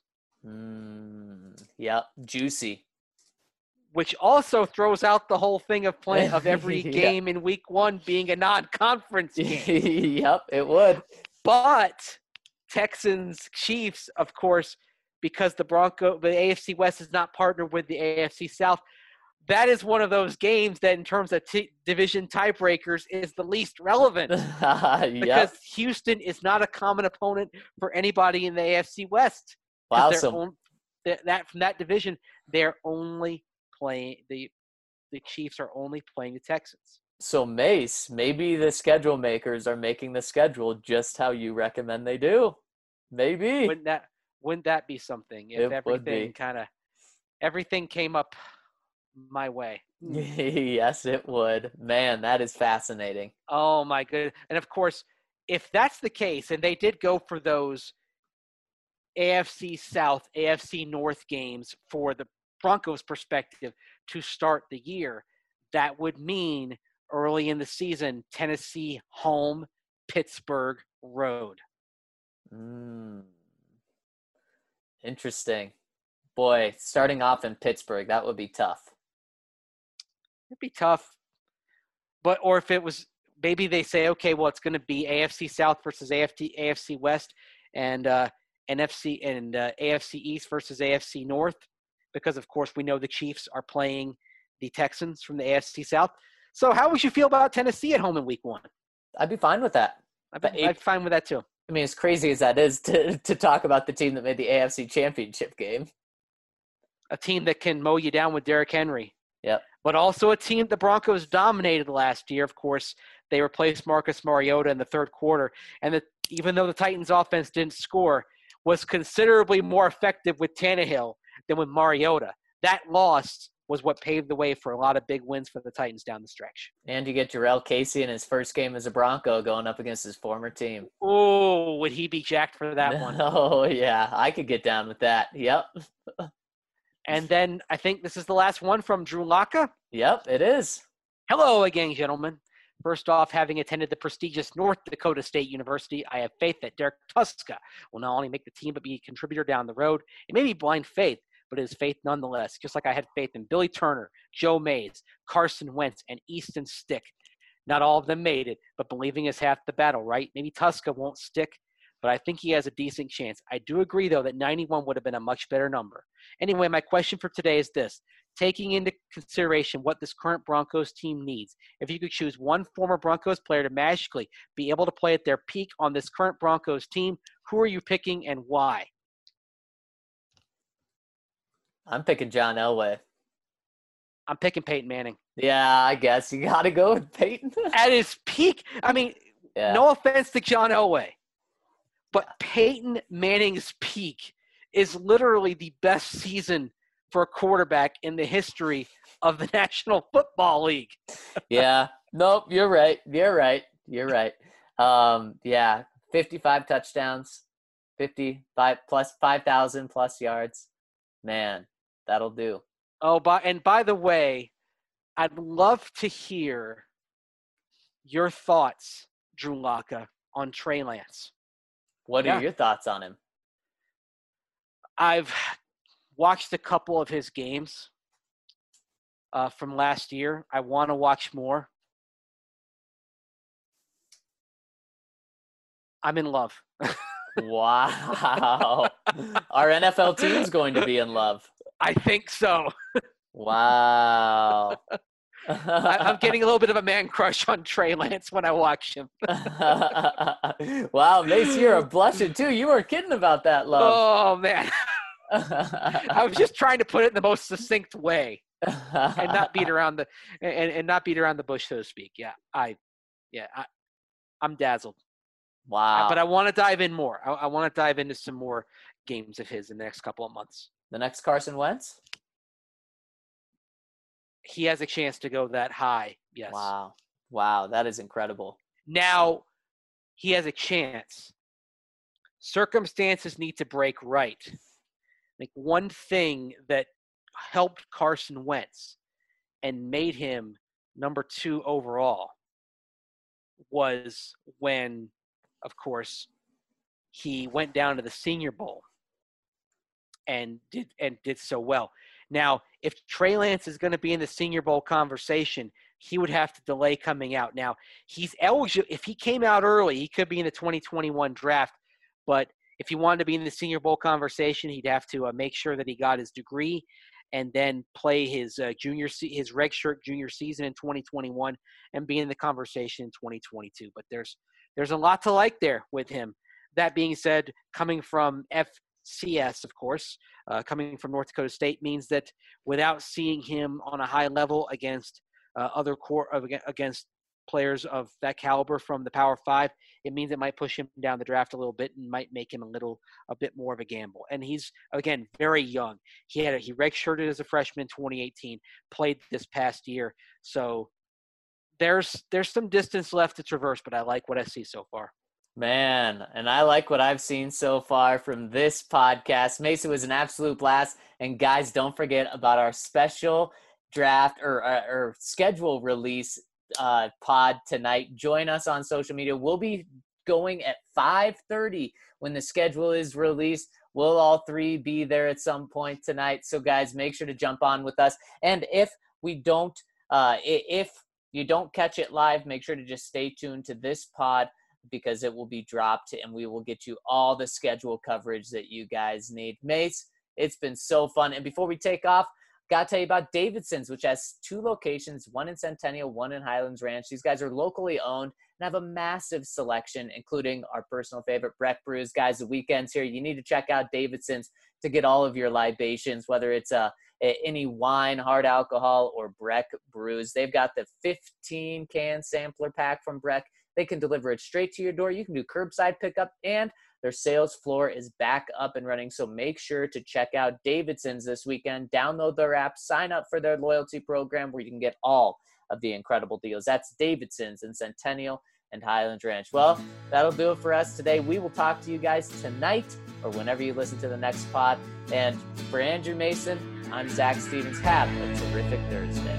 mm, yeah, juicy. Which also throws out the whole thing of play, of every Yeah. game in week one being a non-conference game. Yep, it would. But Texans-Chiefs, of course, because the Bronco, the A F C West is not partnered with the A F C South, that is one of those games that in terms of t- division tiebreakers is the least relevant. Because Yep. Houston is not a common opponent for anybody in the A F C West. Wow, They're so on- that, that from that division, they're only playing the the Chiefs are only playing the Texans. so Mace, maybe the schedule makers are making the schedule just how you recommend they do. Maybe. Wouldn't that wouldn't that be something if It would be. everything kind of everything came up my way? Yes, it would. Man, that is fascinating. Oh my goodness. And of course, if that's the case, and they did go for those A F C South, A F C North games for the Broncos' perspective to start the year, that would mean early in the season, Tennessee home, Pittsburgh road. Mm. Interesting. Boy, starting off in Pittsburgh, that would be tough. It'd be tough. But or if it was maybe they say, okay, well, it's going to be A F C South versus A F C West, and uh, N F C and uh, A F C East versus A F C North, because of course we know the Chiefs are playing the Texans from the A F C South. So how would you feel about Tennessee at home in Week One? I'd be fine with that. I'd be, I'd be fine with that too. I mean, as crazy as that is to to talk about the team that made the A F C Championship game. A team that can mow you down with Derrick Henry. Yep. But also a team the Broncos dominated last year. Of course, they replaced Marcus Mariota in the third quarter. And the, even though the Titans' offense didn't score, was considerably more effective with Tannehill than with Mariota. That loss was what paved the way for a lot of big wins for the Titans down the stretch. And you get Jarrell Casey in his first game as a Bronco going up against his former team. Oh, would he be jacked for that one? Oh, yeah. I could get down with that. Yep. And then I think this is the last one from Drew Locka. Yep, it is. Hello again, gentlemen. First off, having attended the prestigious North Dakota State University, I have faith that Derek Tuska will not only make the team but be a contributor down the road. It may be blind faith, but it is faith nonetheless, just like I had faith in Billy Turner, Joe Mays, Carson Wentz, and Easton Stick. Not all of them made it, but believing is half the battle, right? Maybe Tuska won't stick, but I think he has a decent chance. I do agree, though, that ninety-one would have been a much better number. Anyway, my question for today is this. Taking into consideration what this current Broncos team needs, if you could choose one former Broncos player to magically be able to play at their peak on this current Broncos team, who are you picking and why? I'm picking John Elway. I'm picking Peyton Manning. Yeah, I guess you got to go with Peyton. At his peak, I mean, yeah. No offense to John Elway, but Peyton Manning's peak is literally the best season for a quarterback in the history of the National Football League. Yeah. Nope, you're right. You're right. You're right. Um, yeah, fifty-five touchdowns, fifty-five plus five thousand plus yards. Man, that'll do. Oh, by, and by the way, I'd love to hear your thoughts, Drew Locka, on Trey Lance. What are yeah. your thoughts on him? I've watched a couple of his games uh, from last year. I want to watch more. I'm in love. Wow. Our N F L team's going to be in love. I think so. Wow. I, I'm getting a little bit of a man crush on Trey Lance when I watch him. Wow, Mace, you're a blusher too. You weren't kidding about that love. Oh, man. I was just trying to put it in the most succinct way and not beat around the and, and not beat around the bush, so to speak. Yeah, I, yeah, I, I'm dazzled. Wow. But I want to dive in more. I, I want to dive into some more games of his in the next couple of months. The next Carson Wentz? He has a chance to go that high, yes. Wow. Wow, that is incredible. Now, he has a chance. Circumstances need to break right. Like one thing that helped Carson Wentz and made him number two overall was when, of course, he went down to the Senior Bowl and did and did so well. Now, if Trey Lance is going to be in the Senior Bowl conversation, he would have to delay coming out. Now, he's eligible. If he came out early, he could be in the twenty twenty-one draft. But if he wanted to be in the Senior Bowl conversation, he'd have to uh, make sure that he got his degree and then play his uh, junior se- his redshirt junior season in twenty twenty-one and be in the conversation in twenty twenty-two. But there's there's a lot to like there with him. That being said, coming from F C S, of course, uh, coming from North Dakota State means that without seeing him on a high level against uh, other core of, against players of that caliber from the Power Five, it means it might push him down the draft a little bit and might make him a little a bit more of a gamble. And he's again very young. He had a, he redshirted as a freshman in twenty eighteen, played this past year, so there's there's some distance left to traverse. But I like what I see so far. Man, and I like what I've seen so far from this podcast. Mason, was an absolute blast. And guys, don't forget about our special draft or, or, or schedule release uh, pod tonight. Join us on social media. We'll be going at five thirty when the schedule is released. we'll all three be there at some point tonight. So guys, make sure to jump on with us. And if we don't, uh, if you don't catch it live, make sure to just stay tuned to this pod, because it will be dropped and we will get you all the schedule coverage that you guys need. Mace, it's been so fun. And before we take off, got to tell you about Davidson's, which has two locations, one in Centennial, one in Highlands Ranch. These guys are locally owned and have a massive selection, including our personal favorite, Breck Brews. Guys, the weekend's here. You need to check out Davidson's to get all of your libations, whether it's a, a any wine, hard alcohol, or Breck Brews. They've got the fifteen can sampler pack from Breck. They can deliver it straight to your door. You can do curbside pickup, and their sales floor is back up and running. So make sure to check out Davidson's this weekend. Download their app, sign up for their loyalty program where you can get all of the incredible deals. That's Davidson's in Centennial and Highlands Ranch. Well, that'll do it for us today. We will talk to you guys tonight or whenever you listen to the next pod. And for Andrew Mason, I'm Zach Stevens. Have a terrific Thursday.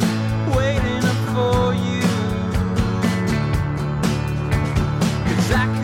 Cause I